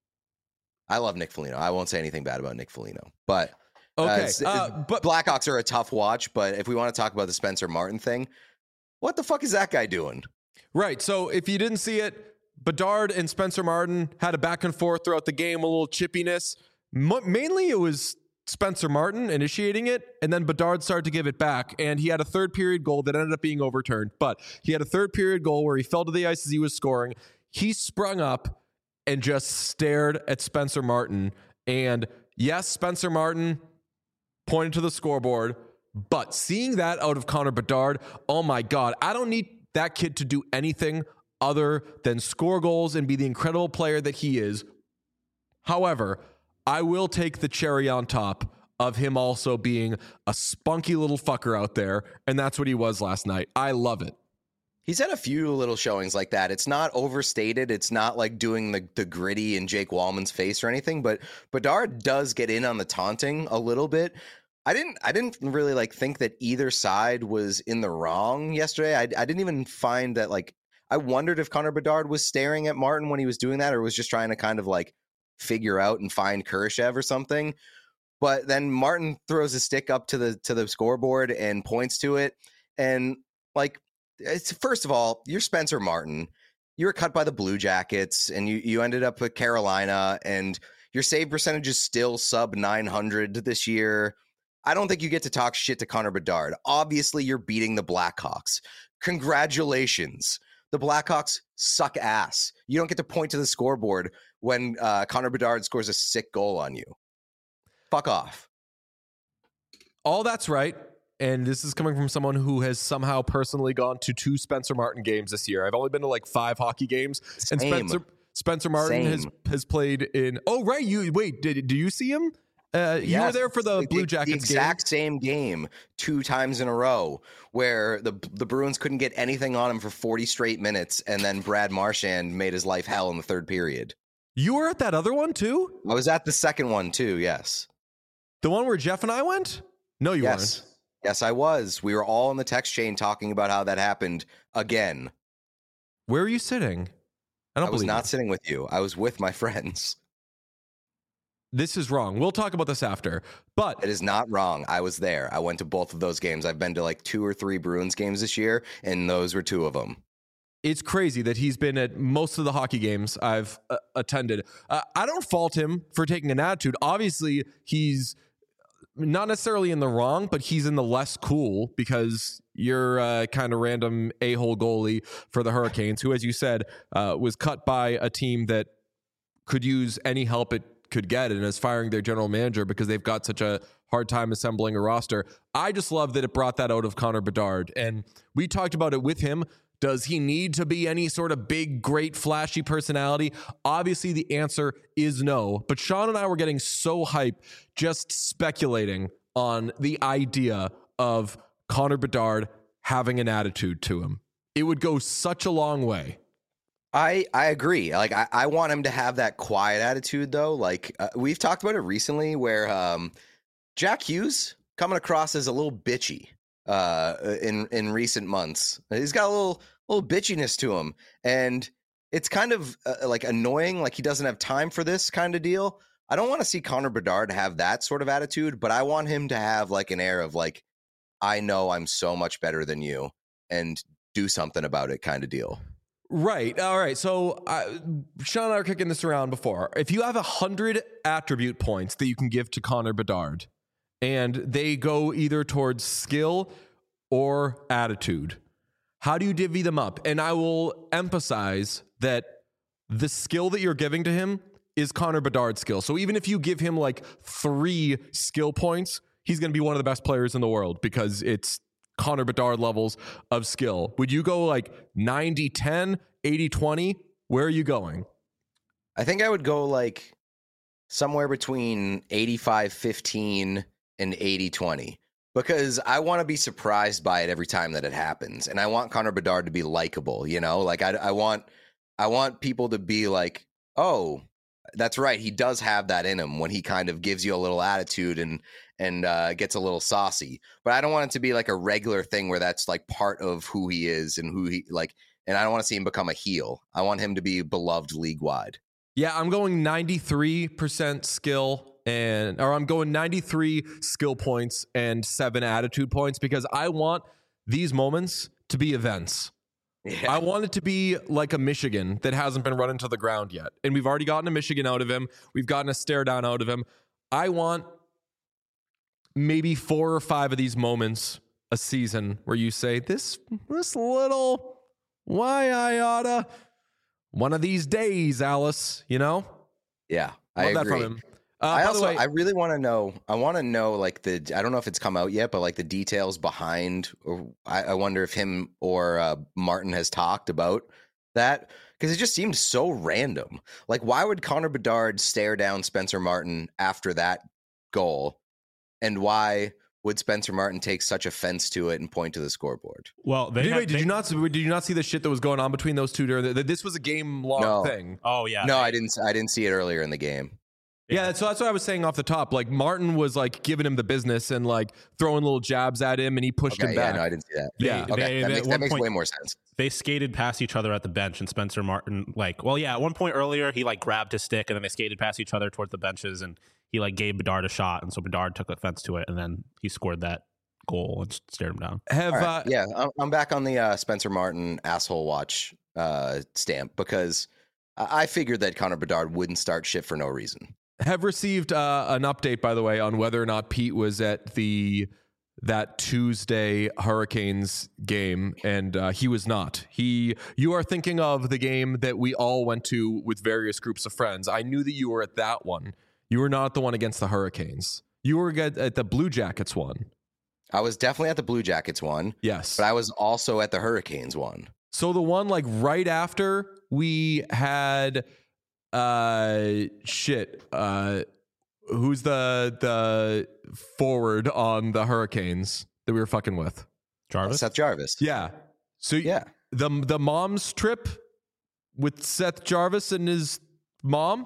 I love Nick Foligno. I won't say anything bad about Nick Foligno. But, okay, uh, uh, but Blackhawks are a tough watch. But if we want to talk about the Spencer Martin thing, what the fuck is that guy doing? Right. So if you didn't see it, Bedard and Spencer Martin had a back and forth throughout the game, a little chippiness. M- mainly it was Spencer Martin initiating it, and then Bedard started to give it back, and he had a third period goal that ended up being overturned. But he had a third period goal where he fell to the ice as he was scoring. He sprung up and just stared at Spencer Martin. And yes, Spencer Martin pointed to the scoreboard, but seeing that out of Connor Bedard, oh my God, I don't need that kid to do anything other than score goals and be the incredible player that he is. However, I will take the cherry on top of him also being a spunky little fucker out there, and that's what he was last night. I love it. He's had a few little showings like that. It's not overstated. It's not like doing the, the gritty in Jake Wallman's face or anything, but Bedard does get in on the taunting a little bit. I didn't I didn't really like think that either side was in the wrong yesterday. I, I didn't even find that like I wondered if Connor Bedard was staring at Martin when he was doing that or was just trying to kind of like figure out and find Kurashev or something. But then Martin throws a stick up to the to the scoreboard and points to it. And like, it's first of all, you're Spencer Martin. You were cut by the Blue Jackets and you, you ended up with Carolina and your save percentage is still sub nine hundred this year. I don't think you get to talk shit to Connor Bedard. Obviously, you're beating the Blackhawks. Congratulations. The Blackhawks suck ass. You don't get to point to the scoreboard when uh, Connor Bedard scores a sick goal on you. Fuck off. All that's right. And this is coming from someone who has somehow personally gone to two Spencer Martin games this year. I've only been to like five hockey games. Same. And Spencer Spencer Martin Same. has has played in. Oh, right. You wait. Did do you see him? Uh, you yes, were there for the, the Blue Jackets the exact game. same game two times in a row where the the Bruins couldn't get anything on him for forty straight minutes, and then Brad Marchand made his life hell in the third period. You were at that other one too? I was at the second one too, yes. The one where Jeff and I went? No, you yes. weren't. Yes, I was. We were all in the text chain talking about how that happened again. Where were you sitting? I don't I was not you. sitting with you. I was with my friends. This is wrong. We'll talk about this after. But it is not wrong. I was there. I went to both of those games. I've been to like two or three Bruins games this year, and those were two of them. It's crazy that he's been at most of the hockey games I've uh, attended. Uh, I don't fault him for taking an attitude. Obviously, he's not necessarily in the wrong, but he's in the less cool because you're a kind of random a-hole goalie for the Hurricanes, who, as you said, uh, was cut by a team that could use any help it could get, and is firing their general manager because they've got such a hard time assembling a roster. I just love that it brought that out of Connor Bedard. And we talked about it with him. Does he need to be any sort of big, great, flashy personality? Obviously, the answer is no. But Sean and I were getting so hyped just speculating on the idea of Connor Bedard having an attitude to him. It would go such a long way. I, I agree. Like, I, I want him to have that quiet attitude, though. Like, uh, we've talked about it recently where um, Jack Hughes coming across as a little bitchy uh, in in recent months. He's got a little little bitchiness to him. And it's kind of uh, like annoying, like he doesn't have time for this kind of deal. I don't want to see Connor Bedard have that sort of attitude, but I want him to have like an air of like, I know I'm so much better than you and do something about it kind of deal. Right. All right. So uh, Sean and I are kicking this around before. If you have a hundred attribute points that you can give to Connor Bedard and they go either towards skill or attitude, how do you divvy them up? And I will emphasize that the skill that you're giving to him is Connor Bedard's skill. So even if you give him like three skill points, he's going to be one of the best players in the world because it's Connor Bedard levels of skill. Would you go like ninety ten, eighty twenty? Where are you going? I think I would go like somewhere between eighty-five fifteen and eighty twenty because I want to be surprised by it every time that it happens. And I want Connor Bedard to be likable, you know, like I, I want, I want people to be like, oh, that's right. He does have that in him when he kind of gives you a little attitude and and uh, gets a little saucy. But I don't want it to be like a regular thing where that's like part of who he is and who he like. And I don't want to see him become a heel. I want him to be beloved league wide. Yeah, I'm going ninety-three percent skill and or I'm going ninety-three skill points and seven attitude points because I want these moments to be events. Yeah. I want it to be like a Michigan that hasn't been run into the ground yet. And we've already gotten a Michigan out of him. We've gotten a stare down out of him. I want maybe four or five of these moments a season where you say, this, this little, why I oughta, one of these days, Alice, you know? Yeah, I Love agree. that from him. Uh, I by also, the way, I really want to know, I want to know like the, I don't know if it's come out yet, but like the details behind, or I, I wonder if him or uh, Martin has talked about that because it just seemed so random. Like, why would Connor Bedard stare down Spencer Martin after that goal? And why would Spencer Martin take such offense to it and point to the scoreboard? Well, they did, have, wait, did they, you not did you not see the shit that was going on between those two during the, this was a game long No. thing? Oh yeah. No, they, I didn't. I didn't see it earlier in the game. Yeah, so that's what I was saying off the top. Like Martin was like giving him the business and like throwing little jabs at him, and he pushed Okay, him yeah, back. no, I didn't see that. They, Yeah. they, Okay, they, that at makes, one that makes point, way more sense. They skated past each other at the bench, and Spencer Martin, like, well, yeah, at one point earlier, he like grabbed his stick, and then they skated past each other towards the benches, and he like gave Bedard a shot, and so Bedard took offense to it, and then he scored that goal and stared him down. Have All right, uh, yeah, I'm, I'm back on the uh, Spencer Martin asshole watch uh, stamp because I I figured that Connor Bedard wouldn't start shit for no reason. have received uh, an update, by the way, on whether or not Pete was at the that Tuesday Hurricanes game, and uh, he was not. He, you are thinking of the game that we all went to with various groups of friends. I knew that you were at that one. You were not the one against the Hurricanes. You were at, at the Blue Jackets one. I was definitely at the Blue Jackets one. Yes, but I was also at the Hurricanes one. So the one like right after we had uh shit uh who's the the forward on the Hurricanes that we were fucking with? Jarvis? Seth Jarvis. Yeah. So yeah, the the mom's trip with Seth Jarvis and his mom.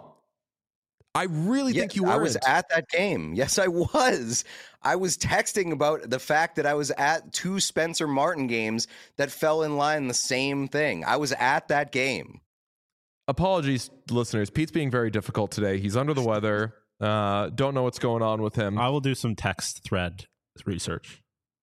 I really yeah, think you were. I was at that game. Yes, I was. I was texting about the fact that I was at two Spencer Martin games that fell in line the same thing. I was at that game. Apologies, listeners. Pete's being very difficult today. He's under the weather. Uh, don't know what's going on with him. I will do some text thread research.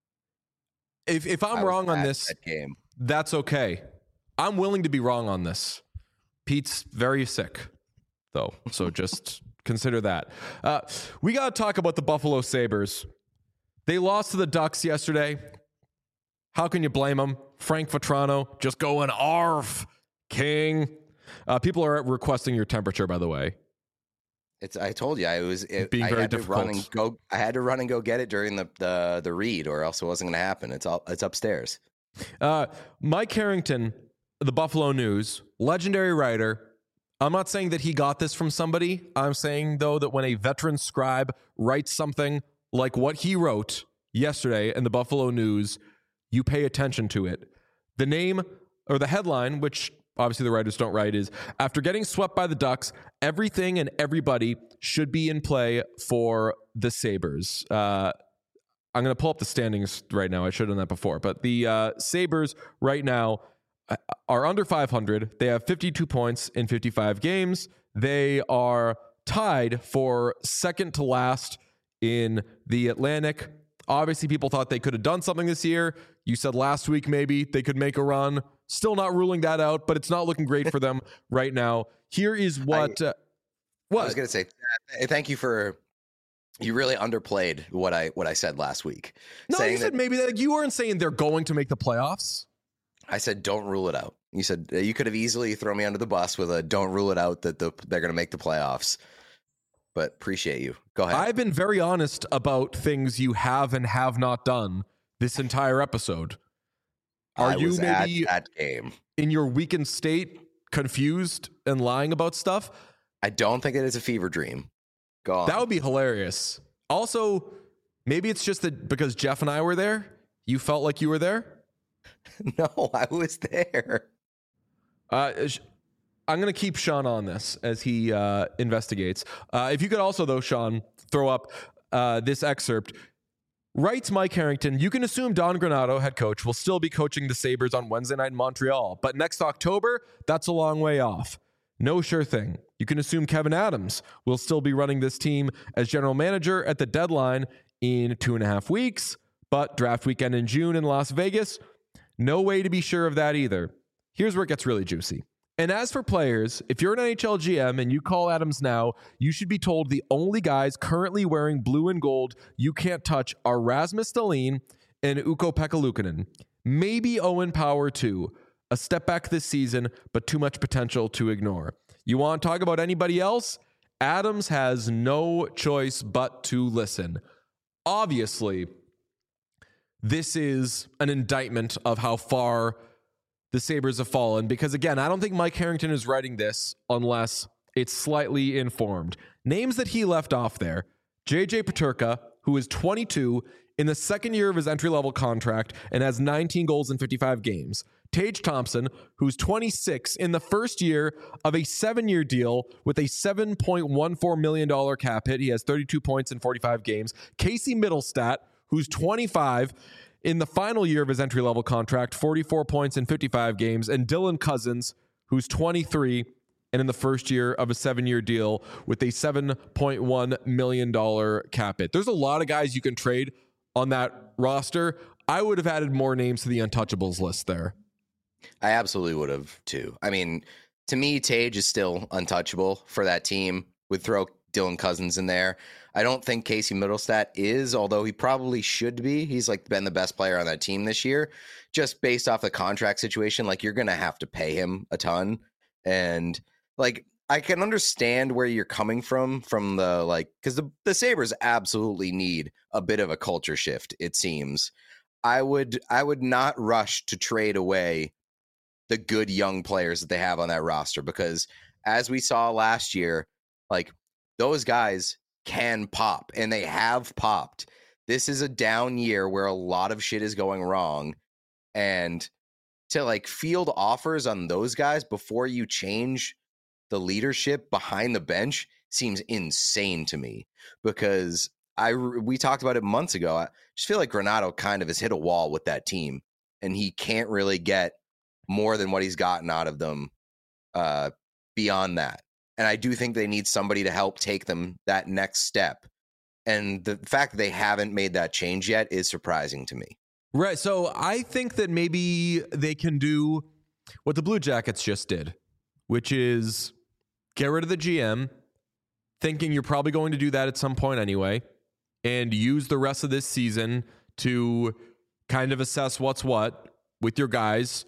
If if I'm I wrong was on at this, that game. that's okay. I'm willing to be wrong on this. Pete's very sick, though, so just consider that. Uh, we got to talk about the Buffalo Sabres. They lost to the Ducks yesterday. How can you blame them? Frank Vetrano just going arf, king. Uh, people are requesting your temperature, by the way. It's. I told you I was. It, Being I very had to difficult. run and go. I had to run and go get it during the the the read, or else it wasn't going to happen. It's all. It's upstairs. Uh, Mike Harrington, the Buffalo News, legendary writer. I'm not saying that he got this from somebody. I'm saying, though, that when a veteran scribe writes something like what he wrote yesterday in the Buffalo News, you pay attention to it. The name or the headline, which obviously the writers don't write, is after getting swept by the Ducks, everything and everybody should be in play for the Sabres. Uh, I'm going to pull up the standings right now. I should have done that before. But the uh, Sabres right now are under five hundred. They have fifty-two points in fifty-five games. They are tied for second to last in the Atlantic. Obviously, people thought they could have done something this year. You said last week maybe they could make a run. Still not ruling that out, but it's not looking great for them right now. Here is what... I, uh, what? I was going to say, thank you for... You really underplayed what I what I said last week. No, saying you said that, maybe that you weren't saying they're going to make the playoffs. I said don't rule it out. You said you could have easily thrown me under the bus with a don't rule it out that the, they're going to make the playoffs. But appreciate you. Go ahead. I've been very honest about things you have and have not done this entire episode. Are I you was maybe at that game in your weakened state, confused and lying about stuff? I don't think it is a fever dream. Go on. That would be hilarious. Also, maybe it's just that because Jeff and I were there, you felt like you were there. No, I was there. Uh, I'm going to keep Sean on this as he uh, investigates. Uh, if you could also, though, Sean, throw up uh, this excerpt. Writes Mike Harrington, you can assume Don Granato, head coach, will still be coaching the Sabres on Wednesday night in Montreal. But next October, that's a long way off. No sure thing. You can assume Kevin Adams will still be running this team as general manager at the deadline in two and a half weeks. But draft weekend in June in Las Vegas, no way to be sure of that either. Here's where it gets really juicy. And as for players, if you're an N H L G M and you call Adams now, you should be told the only guys currently wearing blue and gold you can't touch are Rasmus Dahlin and Ukko-Pekka Luukkonen. Maybe Owen Power too. A step back this season, but too much potential to ignore. You want to talk about anybody else? Adams has no choice but to listen. Obviously, this is an indictment of how far the Sabres have fallen because, again, I don't think Mike Harrington is writing this unless it's slightly informed. Names that he left off there. J J Peterka, who is twenty-two, in the second year of his entry-level contract and has nineteen goals in fifty-five games. Tage Thompson, who's twenty-six, in the first year of a seven-year deal with a seven point one four million dollars cap hit. He has thirty-two points in forty-five games. Casey Mittelstadt, who's twenty-five, in the final year of his entry-level contract, forty-four points in fifty-five games. And Dylan Cousins, who's twenty-three, and in the first year of a seven-year deal with a seven point one million dollars cap hit. There's a lot of guys you can trade on that roster. I would have added more names to the untouchables list there. I absolutely would have too. I mean, to me, Tage is still untouchable for that team. Would throw Dylan Cousins in there. I don't think Casey Mittelstadt is, although he probably should be. He's like been the best player on that team this year, just based off the contract situation. Like you're going to have to pay him a ton. And like, I can understand where you're coming from, from the like, because the, the Sabres absolutely need a bit of a culture shift, it seems. I would, I would not rush to trade away the good young players that they have on that roster, because as we saw last year, like those guys can pop and they have popped. This is a down year where a lot of shit is going wrong, and to like field offers on those guys before you change the leadership behind the bench seems insane to me, because I, we talked about it months ago. I just feel like Granato kind of has hit a wall with that team, and he can't really get more than what he's gotten out of them uh, beyond that. And I do think they need somebody to help take them that next step. And the fact that they haven't made that change yet is surprising to me. Right. So I think that maybe they can do what the Blue Jackets just did, which is get rid of the G M, thinking you're probably going to do that at some point anyway, and use the rest of this season to kind of assess what's what with your guys,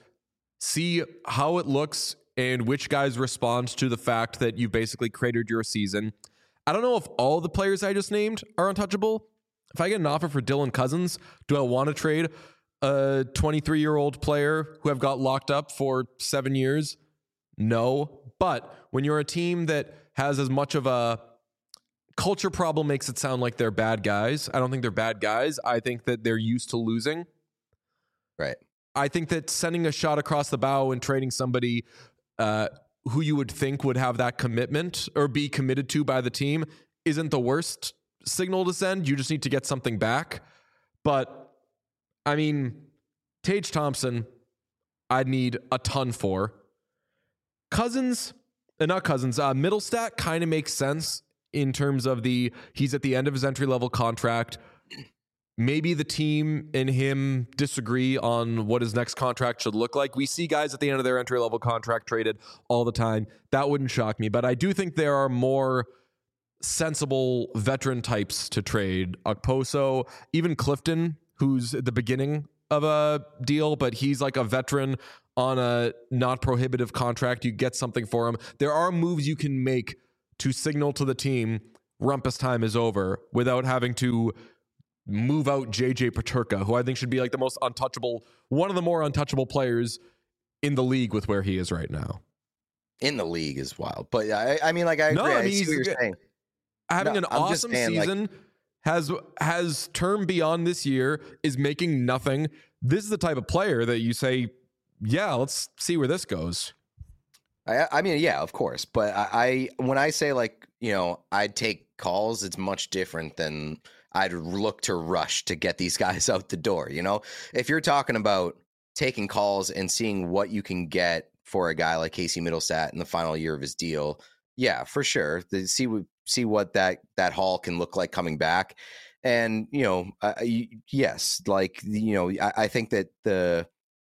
see how it looks and which guys respond to the fact that you've basically cratered your season. I don't know if all the players I just named are untouchable. If I get an offer for Dylan Cousins, do I want to trade a twenty-three-year-old player who I've got locked up for seven years? No. But when you're a team that has as much of a culture problem makes it sound like they're bad guys. I don't think they're bad guys. I think that they're used to losing. Right. I think that sending a shot across the bow and trading somebody uh, who you would think would have that commitment or be committed to by the team isn't the worst signal to send. You just need to get something back. But, I mean, Tage Thompson, I'd need a ton for. Cousins, uh, not Cousins, uh, Middlestat kind of makes sense in terms of the, he's at the end of his entry-level contract. Maybe the team and him disagree on what his next contract should look like. We see guys at the end of their entry-level contract traded all the time. That wouldn't shock me. But I do think there are more sensible veteran types to trade. Okposo, even Clifton, who's at the beginning of a deal, but he's like a veteran on a not prohibitive contract. You get something for him. There are moves you can make to signal to the team rumpus time is over without having to move out J J Peterka, who I think should be like the most untouchable, one of the more untouchable players in the league with where he is right now. In the league is wild. But I, I mean, like, I agree. No, I I mean, see what you're he's- saying. Having No, an I'm just awesome saying, like- season has has term beyond this year, is making nothing. This is the type of player that you say, yeah, let's see where this goes. I, I mean, yeah, of course. But I, I, when I say, like, you know, I'd take calls, it's much different than I'd look to rush to get these guys out the door. You know, if you're talking about taking calls and seeing what you can get for a guy like Casey Middlestat in the final year of his deal, yeah, for sure. The, see what see what that that haul can look like coming back, and you know, uh, yes, like you know, I, I think that the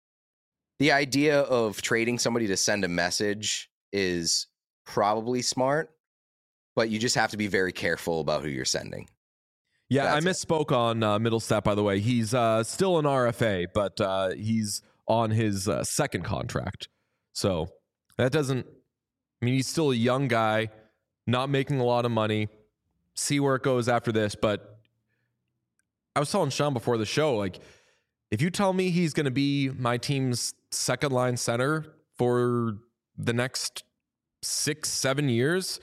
the idea of trading somebody to send a message is probably smart, but you just have to be very careful about who you're sending. Yeah, That's I it. misspoke on uh, Middlestat, by the way. He's uh, still an R F A, but uh, he's on his uh, second contract. So that doesn't, I mean, he's still a young guy, not making a lot of money. See where it goes after this. But I was telling Sean before the show, like, if you tell me he's going to be my team's second line center for the next six, seven years,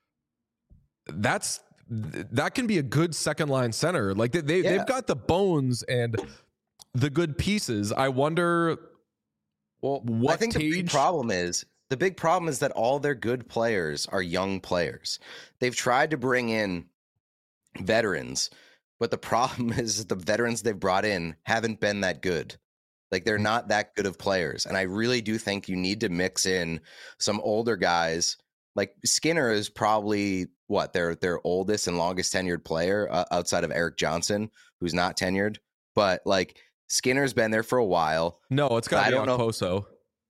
that's that can be a good second line center. Like they, they Yeah. they've got the bones and the good pieces. I wonder. Well, what I think the big Tage- problem is the big problem is that all their good players are young players. They've tried to bring in veterans, but the problem is the veterans they've brought in haven't been that good. Like they're not that good of players. And I really do think you need to mix in some older guys. Like Skinner is probably what their their oldest and longest tenured player uh, outside of Eric Johnson, who's not tenured. But like Skinner's been there for a while. No, it's got I to be don't know. Okposo.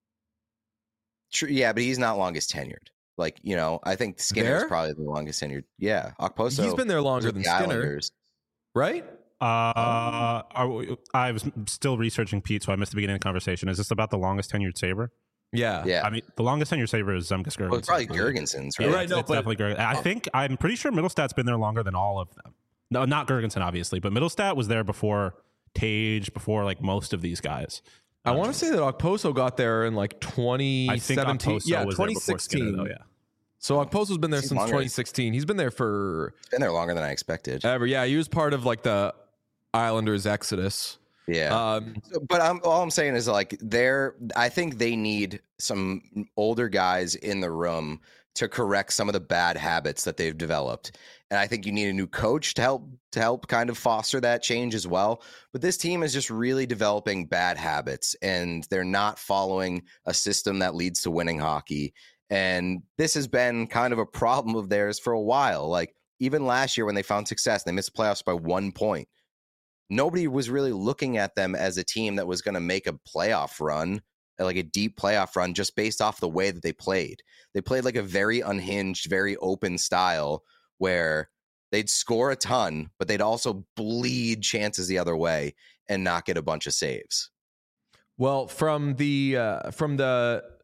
True, yeah, but he's not longest tenured. Like you know, I think Skinner is There? probably the longest tenured. Yeah, Okposo. He's been there was longer with than the Skinner, Islanders. right? Uh, are we- I was still researching Pete, so I missed the beginning of the conversation. Is this about the longest tenured Saber? Yeah. Yeah, I mean, the longest tenured Saber is Zemgus Girgensons. well, it's probably Gergensons, Yeah, right? Right, it's, no, it's but- definitely Gergen. I think I'm pretty sure Middlestat's been there longer than all of them. No, not Gergensen, obviously, but Middlestat was there before Tage, before like most of these guys. I want to say that Okposo got there in like twenty I think seventeen. Okposo Yeah, was there twenty before Skinner, sixteen. though, yeah. So Okposo's been there He's since longer. twenty sixteen. He's been there for It's been there longer than I expected. ever. Yeah, he was part of like the Islanders exodus. Yeah. Um, So- but I'm, all I'm saying is like they're I think they need some older guys in the room to correct some of the bad habits that they've developed. And I think you need a new coach to help to help kind of foster that change as well. But this team is just really developing bad habits and they're not following a system that leads to winning hockey. And this has been kind of a problem of theirs for a while. Like even last year when they found success, they missed playoffs by one point. Nobody was really looking at them as a team that was going to make a playoff run, like a deep playoff run, just based off the way that they played. They played like a very unhinged, very open style where they'd score a ton, but they'd also bleed chances the other way and not get a bunch of saves. well, from the uh, from the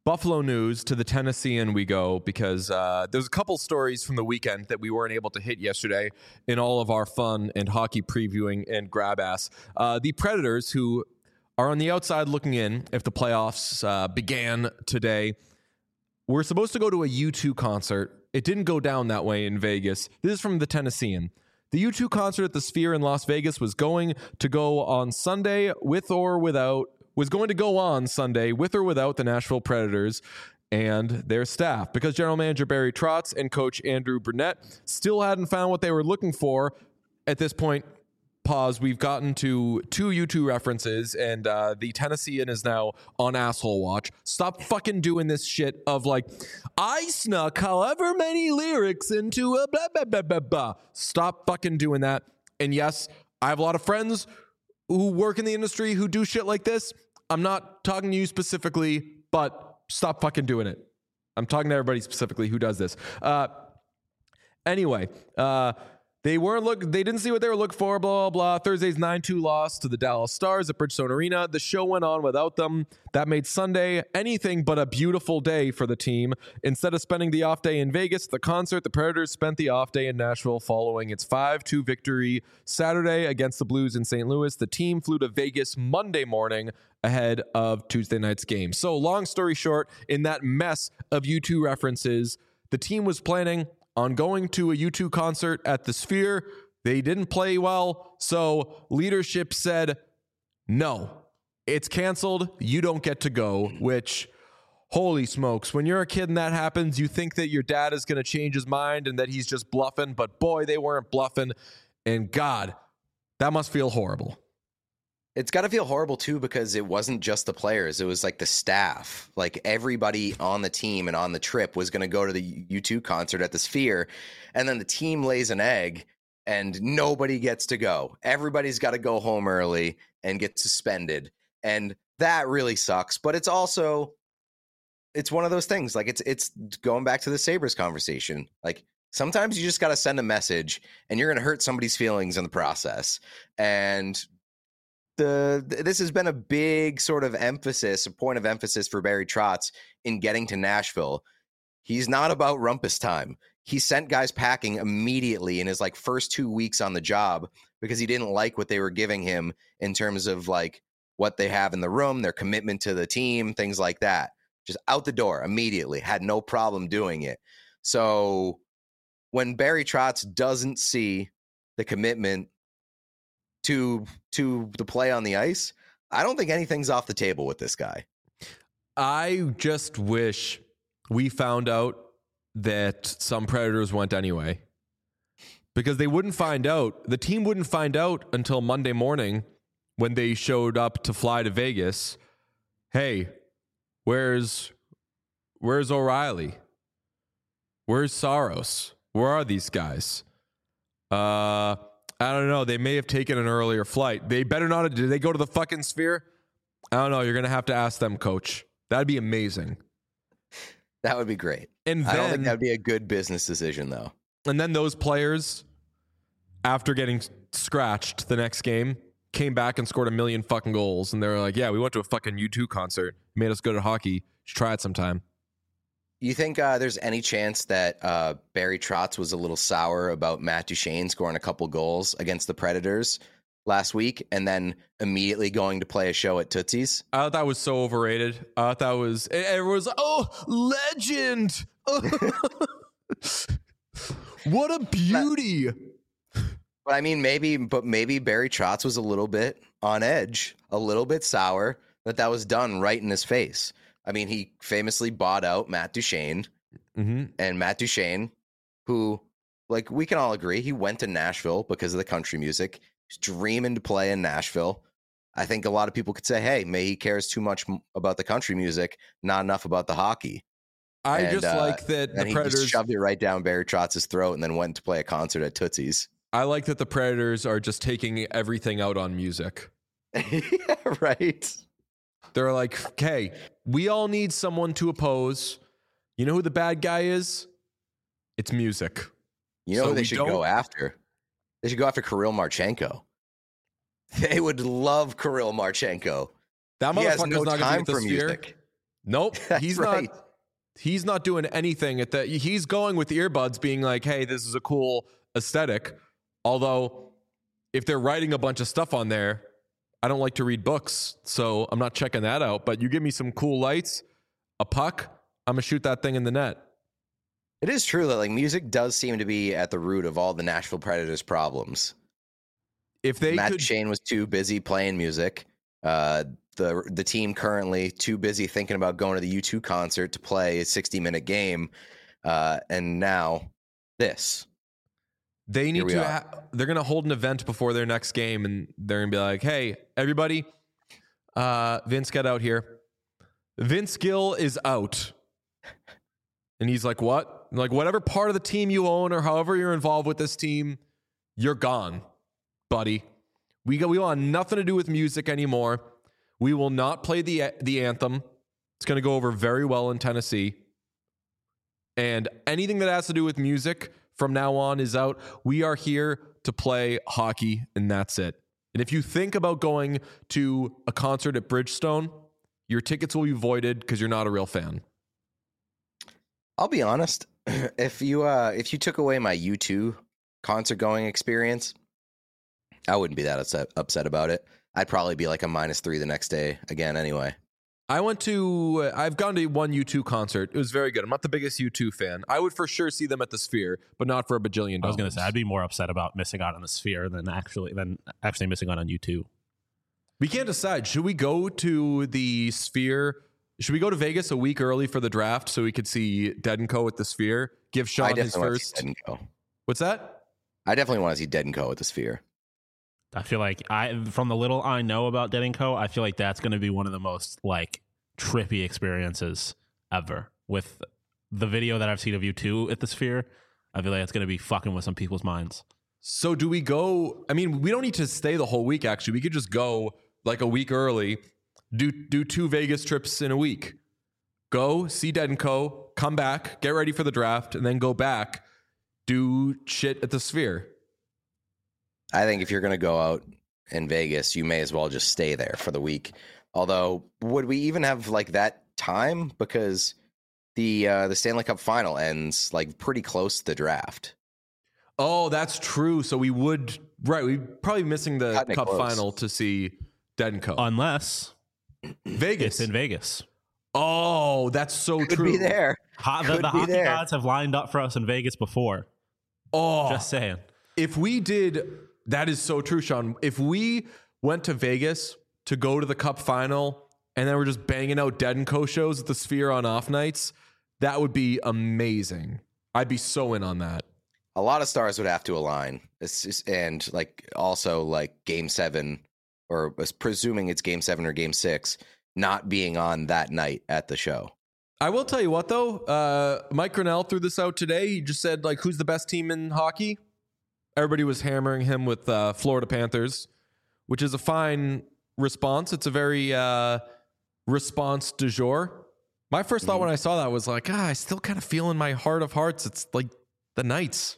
Buffalo news to the Tennessean we go, because uh, there's a couple stories from the weekend that we weren't able to hit yesterday in all of our fun and hockey previewing and grab ass. Uh, the Predators, who are on the outside looking in if the playoffs uh, began today, were supposed to go to a U two concert. It didn't go down that way in Vegas. This is from the Tennessean. The U two concert at the Sphere in Las Vegas was going to go on Sunday with or without was going to go on Sunday with or without the Nashville Predators and their staff, because general manager Barry Trotz and coach Andrew Burnett still hadn't found what they were looking for. At this point, pause, we've gotten to two U two references, and uh, the Tennessean is now on asshole watch. Stop fucking doing this shit of like, I snuck however many lyrics into a blah, blah, blah, blah, blah. Stop fucking doing that. And yes, I have a lot of friends who work in the industry who do shit like this. I'm not talking to you specifically, but stop fucking doing it. I'm talking to everybody specifically who does this. Uh, anyway, uh, they weren't look. They didn't see what they were looking for. Blah blah blah. Thursday's nine two loss to the Dallas Stars at Bridgestone Arena. The show went on without them. That made Sunday anything but a beautiful day for the team. Instead of spending the off day in Vegas, the concert, the Predators spent the off day in Nashville following its five two victory Saturday against the Blues in Saint Louis. The team flew to Vegas Monday morning ahead of Tuesday night's game. So long story short, in that mess of U two references, the team was planning on going to a U two concert at the Sphere. They didn't play well, so leadership said, no, it's canceled. You don't get to go, which, holy smokes, when you're a kid and that happens, you think that your dad is going to change his mind and that he's just bluffing, but boy, they weren't bluffing, and God, that must feel horrible. It's got to feel horrible, too, because it wasn't just the players. It was like the staff. Like everybody on the team and on the trip was going to go to the U two concert at the Sphere. And then the team lays an egg and nobody gets to go. Everybody's got to go home early and get suspended. And that really sucks. But it's also, it's one of those things. Like it's, it's going back to the Sabres conversation. Like sometimes you just got to send a message and you're going to hurt somebody's feelings in the process. And The this has been a big sort of emphasis, a point of emphasis for Barry Trotz in getting to Nashville. He's not about rumpus time. He sent guys packing immediately in his like first two weeks on the job because he didn't like what they were giving him in terms of like what they have in the room, their commitment to the team, things like that. Just out the door immediately, had no problem doing it. So when Barry Trotz doesn't see the commitment to to the play on the ice, I don't think anything's off the table with this guy. I just wish we found out that some Predators went anyway, because they wouldn't find out. The team wouldn't find out until Monday morning when they showed up to fly to Vegas. Hey, where's where's O'Reilly? Where's Saros? Where are these guys? Uh... I don't know. They may have taken an earlier flight. They better not have. Did they go to the fucking Sphere? I don't know. You're going to have to ask them, coach. That'd be amazing. That would be great. And then, I don't think that'd be a good business decision, though. And then those players, after getting scratched the next game, came back and scored a million fucking goals. And they were like, yeah, we went to a fucking U two concert. Made us good at hockey. You should try it sometime. You think uh, there's any chance that uh, Barry Trotz was a little sour about Matt Duchene scoring a couple goals against the Predators last week and then immediately going to play a show at Tootsie's? I thought that was so overrated. I thought that was, everyone's like, oh, legend. What a beauty. But I mean, maybe, but maybe Barry Trotz was a little bit on edge, a little bit sour that that was done right in his face. I mean, he famously bought out Matt Duchene, mm-hmm. and Matt Duchene, who, like, we can all agree, he went to Nashville because of the country music. He's dreaming to play in Nashville. I think a lot of people could say, hey, maybe he cares too much about the country music, not enough about the hockey. I and, just uh, like that the he Predators just shoved it right down Barry Trotz's throat and then went to play a concert at Tootsie's. I like that the Predators are just taking everything out on music. Yeah, right. They're like, okay, we all need someone to oppose. You know who the bad guy is? It's music. You know so who they should don't... go after? They should go after Kirill Marchenko. They would love Kirill Marchenko. That motherfucker's no not going to get the Sphere. Music. Nope, That's he's right. not. He's not doing anything at that. He's going with earbuds, being like, "Hey, this is a cool aesthetic." Although, if they're writing a bunch of stuff on there, I don't like to read books, so I'm not checking that out. But you give me some cool lights, a puck, I'm gonna shoot that thing in the net. It is true that like music does seem to be at the root of all the Nashville Predators problems. If they Matt could, Duchene was too busy playing music. Uh, the the team currently too busy thinking about going to the U two concert to play a sixty minute game, uh, and now this. they need we to. are. Ha- they're gonna hold an event before their next game, and they're gonna be like, "Hey, everybody, uh, Vince, get out here. Vince Gill is out." And he's like, "What?" I'm like, whatever part of the team you own or however you're involved with this team, you're gone, buddy. We go, we want nothing to do with music anymore. We will not play the the anthem. It's going to go over very well in Tennessee. And anything that has to do with music from now on is out. We are here to play hockey, and that's it. And if you think about going to a concert at Bridgestone, your tickets will be voided because you're not a real fan. I'll be honest. If you uh, if you took away my U two concert going experience, I wouldn't be that upset upset about it. I'd probably be like a minus three the next day again anyway. I went to, uh, I've gone to one U two concert. It was very good. I'm not the biggest U two fan. I would for sure see them at the Sphere, but not for a bajillion dollars. I was going to say I'd be more upset about missing out on the Sphere than actually than actually missing out on U two. We can't decide. Should we go to the Sphere? Should we go to Vegas a week early for the draft so we could see Dead and Co at the Sphere? Give I Sean his definitely want to see first. Dead and Co. What's that? I definitely want to see Dead and Co at the Sphere. I feel like I, from the little I know about Dead and Co, I feel like that's going to be one of the most like trippy experiences ever. With the video that I've seen of you two at the Sphere, I feel like it's going to be fucking with some people's minds. So do we go? I mean, we don't need to stay the whole week. Actually, we could just go like a week early. Do do two Vegas trips in a week. Go see Dead and Co. Come back, get ready for the draft, and then go back. Do shit at the Sphere. I think if you're going to go out in Vegas, you may as well just stay there for the week. Although, would we even have like that time? Because the uh, the Stanley Cup final ends like pretty close to the draft. Oh, that's true. So we would right. We'd probably be missing the Cutting it Cup close. final to see Dead and Co. Unless Vegas. it's in Vegas. Oh, that's so Could true. be there. Ho- the Could the be hockey there. gods have lined up for us in Vegas before. Oh, Just saying. if we did, that is so true, Sean. If we went to Vegas to go to the Cup final and then we're just banging out Dead and Co shows at the Sphere on off nights, that would be amazing. I'd be so in on that. A lot of stars would have to align. It's just, and like also like Game Seven, or was presuming it's Game Seven or Game Six, not being on that night at the show. I will tell you what, though. Uh, Mike Grinnell threw this out today. He just said, like, who's the best team in hockey? Everybody was hammering him with uh, Florida Panthers, which is a fine response. It's a very uh, response du jour. My first thought when I saw that was like, ah, I still kind of feel in my heart of hearts, it's like the Knights.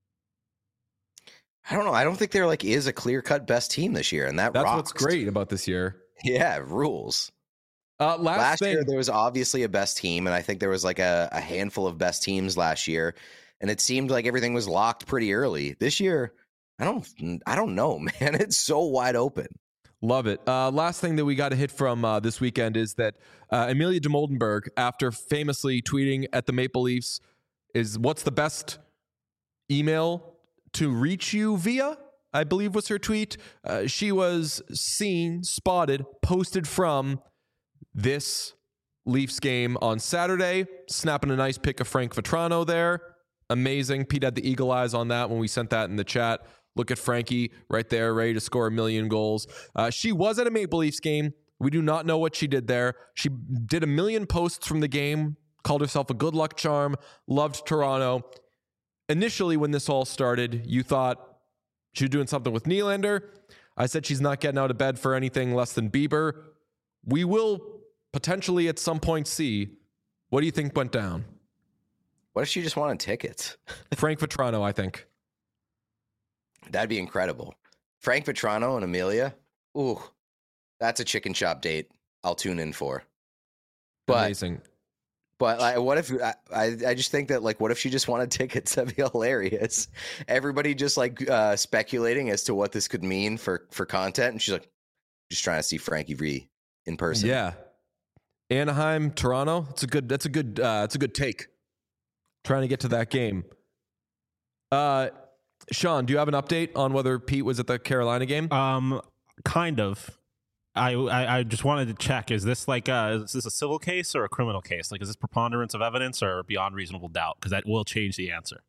I don't know. I don't think there like is a clear cut best team this year, and that That's rocks. what's great about this year. Yeah, it rules. Uh, last Last thing, year there was obviously a best team, and I think there was like a, a handful of best teams last year, and it seemed like everything was locked pretty early. This year, I don't, I don't know, man. It's so wide open. love it. Uh, last thing that we got to hit from uh, this weekend is that uh, Amelia de Moldenberg, after famously tweeting at the Maple Leafs, is what's the best email to reach you via, I believe was her tweet. Uh, she was seen, spotted, posted from this Leafs game on Saturday, snapping a nice pic of Frank Vetrano there. Amazing. Pete had the eagle eyes on that when we sent that in the chat. Look at Frankie right there, ready to score a million goals. Uh, she was at a Maple Leafs game. We do not know what she did there. She did a million posts from the game, called herself a good luck charm, loved Toronto. Initially, when this all started, you thought she was doing something with Nylander. I said she's not getting out of bed for anything less than Bieber. We will potentially at some point see. What do you think went down? What if she just wanted tickets? Frank Vetrano, I think. That'd be incredible. Frank Vetrano and Amelia. Ooh, that's a chicken shop date I'll tune in for. But Amazing. But like, what if I, I? I just think that like, what if she just wanted tickets? That'd be hilarious. Everybody just like uh, speculating as to what this could mean for for content, and she's like, just trying to see Frankie V in person. Yeah. Anaheim, Toronto. It's a good. That's a good. Uh, it's a good take. Trying to get to that game. Uh, Sean, do you have an update on whether Pete was at the Carolina game? Um, kind of. I, I I just wanted to check: is this like a, is this a civil case or a criminal case? Like, is this preponderance of evidence or beyond reasonable doubt? Because that will change the answer.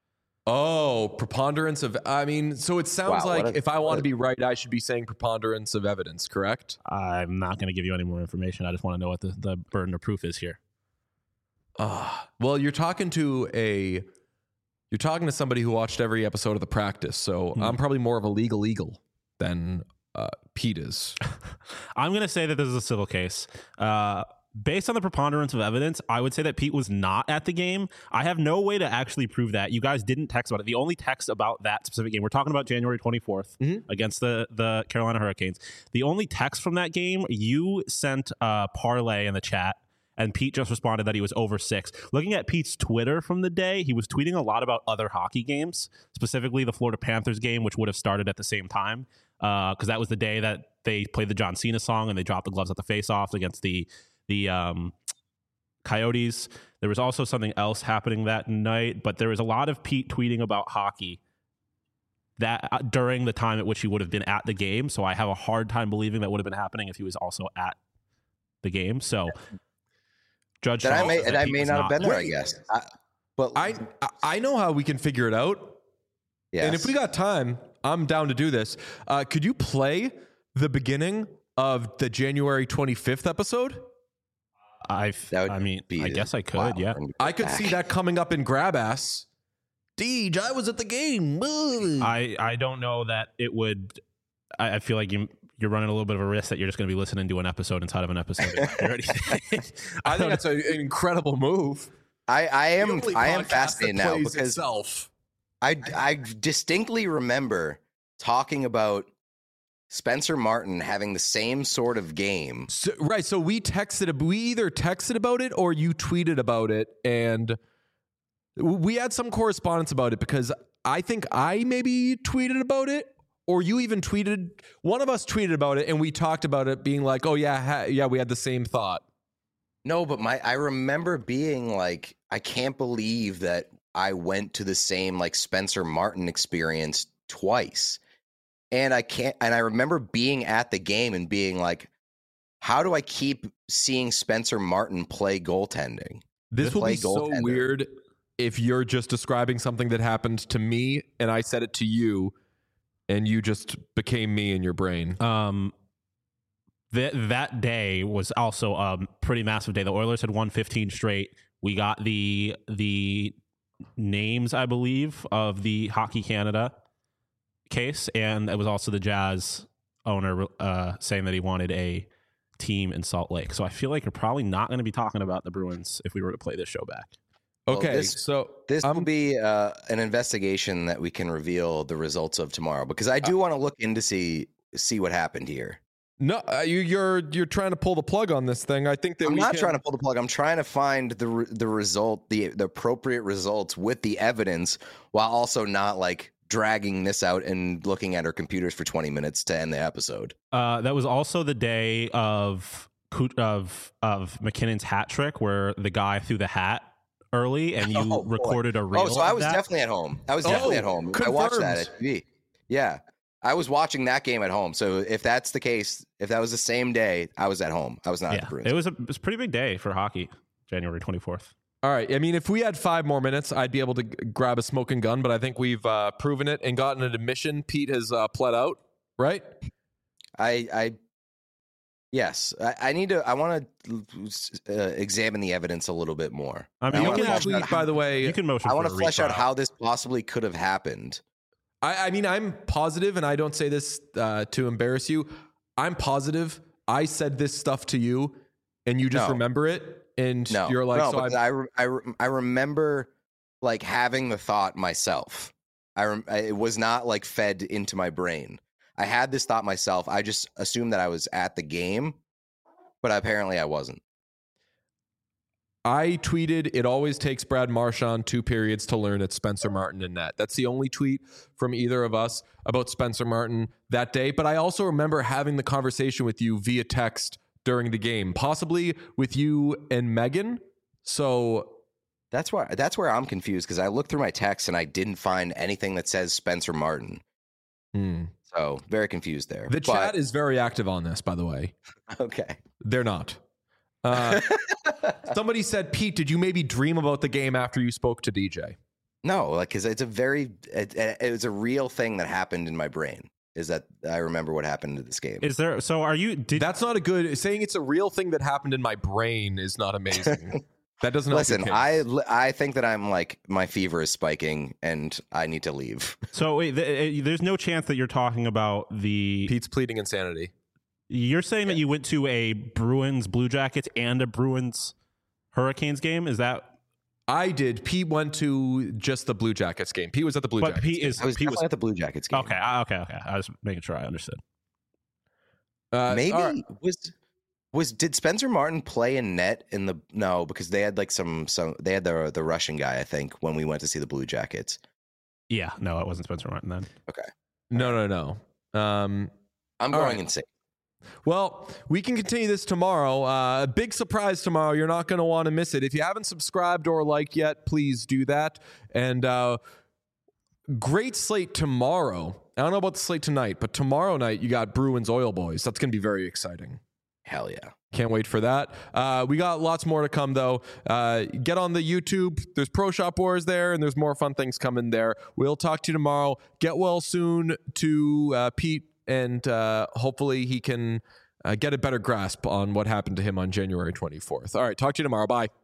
Oh, preponderance of. I mean, so it sounds Wow, like what a- if I want what to a- be right, I should be saying preponderance of evidence. Correct? I'm not going to give you any more information. I just want to know what the, the burden of proof is here. Uh, well, you're talking to a. You're talking to somebody who watched every episode of The Practice, so Hmm. I'm probably more of a legal eagle than uh, Pete is. I'm going to say that this is a civil case. Uh, based on the preponderance of evidence, I would say that Pete was not at the game. I have no way to actually prove that. You guys didn't text about it. The only text about that specific game, we're talking about January twenty-fourth Mhm. against the, the Carolina Hurricanes. The only text from that game, you sent a parlay in the chat, and Pete just responded that he was over six. Looking at Pete's Twitter from the day, he was tweeting a lot about other hockey games, specifically the Florida Panthers game, which would have started at the same time, because uh, that was the day that they played the John Cena song and they dropped the gloves at the face-off against the the um, Coyotes. There was also something else happening that night, but there was a lot of Pete tweeting about hockey that uh, during the time at which he would have been at the game. So I have a hard time believing that would have been happening if he was also at the game. So Judge That I Charles may says that that I Pete may was not have been there. I Wait. guess. I, but I I know how we can figure it out. yes. And if we got time, I'm down to do this. Uh, could you play the beginning of the January twenty-fifth episode? I That would I mean, be I guess I could, wow. yeah. I could see that coming up in Grab Ass. Deej, I was at the game. I, I don't know that it would. I, I feel like you, you're running a little bit of a risk that you're just going to be listening to an episode inside of an episode. or anything. I think that's a, an incredible move. I, I The am only I am podcast fascinated that now plays because itself. I I distinctly remember talking about Spencer Martin having the same sort of game. So, right. So we texted, we either texted about it or you tweeted about it. And we had some correspondence about it because I think I maybe tweeted about it or you even tweeted, one of us tweeted about it and we talked about it being like, oh yeah, ha- yeah, we had the same thought. No, but my I remember being like, I can't believe that I went to the same like Spencer Martin experience twice. And I can't and I remember being at the game and being like, how do I keep seeing Spencer Martin play goaltending? This will Play be so goaltender. weird if you're just describing something that happened to me and I said it to you and you just became me in your brain. Um, that that day was also a pretty massive day. The Oilers had won fifteen straight. We got the the names, I believe, of the Hockey Canada case, and it was also the Jazz owner uh, saying that he wanted a team in Salt Lake. So I feel like you're probably not going to be talking about the Bruins if we were to play this show back. Well, Okay, this- so This I'm- will be uh, an investigation that we can reveal the results of tomorrow because I do want to look in to see see what happened here. No, uh, you, you're you're trying to pull the plug on this thing. I think that I'm we not can, trying to pull the plug. I'm trying to find the re- the result, the the appropriate results with the evidence, while also not like dragging this out and looking at our computers for twenty minutes to end the episode. Uh, that was also the day of of of McKinnon's hat trick, where the guy threw the hat early, and you Oh, boy. recorded a reel. Oh, so I of was that. definitely at home. I was Oh, definitely at home. I watched that confirmed. at T V. Yeah, I was watching that game at home. So if that's the case, if that was the same day, I was at home. I was not at the Yeah, Bruins. it was a it was a pretty big day for hockey, January twenty-fourth. All right. I mean, if we had five more minutes, I'd be able to g- grab a smoking gun, but I think we've uh, proven it and gotten an admission. Pete has uh, pled out, right? I, I, yes, I, I need to. I want to uh, examine the evidence a little bit more. I mean, I you wanna can flesh actually, out Tweet, by the way, you can motion. I want want to flesh out how this possibly could have happened. I, I mean, I'm positive, and I don't say this uh, to embarrass you. I'm positive I said this stuff to you, and you just No. remember it, and No, you're like, no, so because I'm, I, re- I, re- I remember like having the thought myself. I, rem- I it was not like fed into my brain. I had this thought myself. I just assumed that I was at the game, but apparently I wasn't. I tweeted, it always takes Brad Marchand two periods to learn it's Spencer Martin in net. That's the only tweet from either of us about Spencer Martin that day. But I also remember having the conversation with you via text during the game, possibly with you and Megan. So that's why that's where I'm confused, because I looked through my texts and I didn't find anything that says Spencer Martin. Hmm. So very confused there. The but, chat is very active on this, by the way. Okay. They're not. Uh, somebody said, Pete, did you maybe dream about the game after you spoke to D J? No, like, because it's a very, it, it was a real thing that happened in my brain. Is that I remember what happened in this game. Is there, so are you, did, That's not a good, saying it's a real thing that happened in my brain is not amazing. That doesn't help Listen, your I, case. I think that I'm like, my fever is spiking and I need to leave. so wait, th- there's no chance that you're talking about the, Pete's pleading insanity. you're saying that you went to a Bruins Blue Jackets and a Bruins Hurricanes game? Is that, I did. Pete went to just the Blue Jackets game. Pete was at the Blue but Jackets Pete game. is, I was Pete definitely was, at the Blue Jackets game. okay, I- okay, okay. I was making sure I understood. Uh, Maybe all right. was was did Spencer Martin play in net in the no because they had like some some they had the the Russian guy, I think, when we went to see the Blue Jackets. Yeah, no, it wasn't Spencer Martin then. Okay, No, no, no. Um, I'm All going right. insane. Well, we can continue this tomorrow. Uh, a big surprise tomorrow. You're not going to want to miss it. If you haven't subscribed or liked yet, please do that. And uh, great slate tomorrow. I don't know about the slate tonight, but tomorrow night you got Bruins Oil Boys. That's going to be very exciting. Hell yeah. Can't wait for that. Uh, we got lots more to come, though. Uh, get on the YouTube. There's Pro Shop Wars there, and there's more fun things coming there. We'll talk to you tomorrow. Get well soon to uh, Pete, and uh, hopefully he can uh, get a better grasp on what happened to him on January twenty-fourth. All right, talk to you tomorrow. Bye.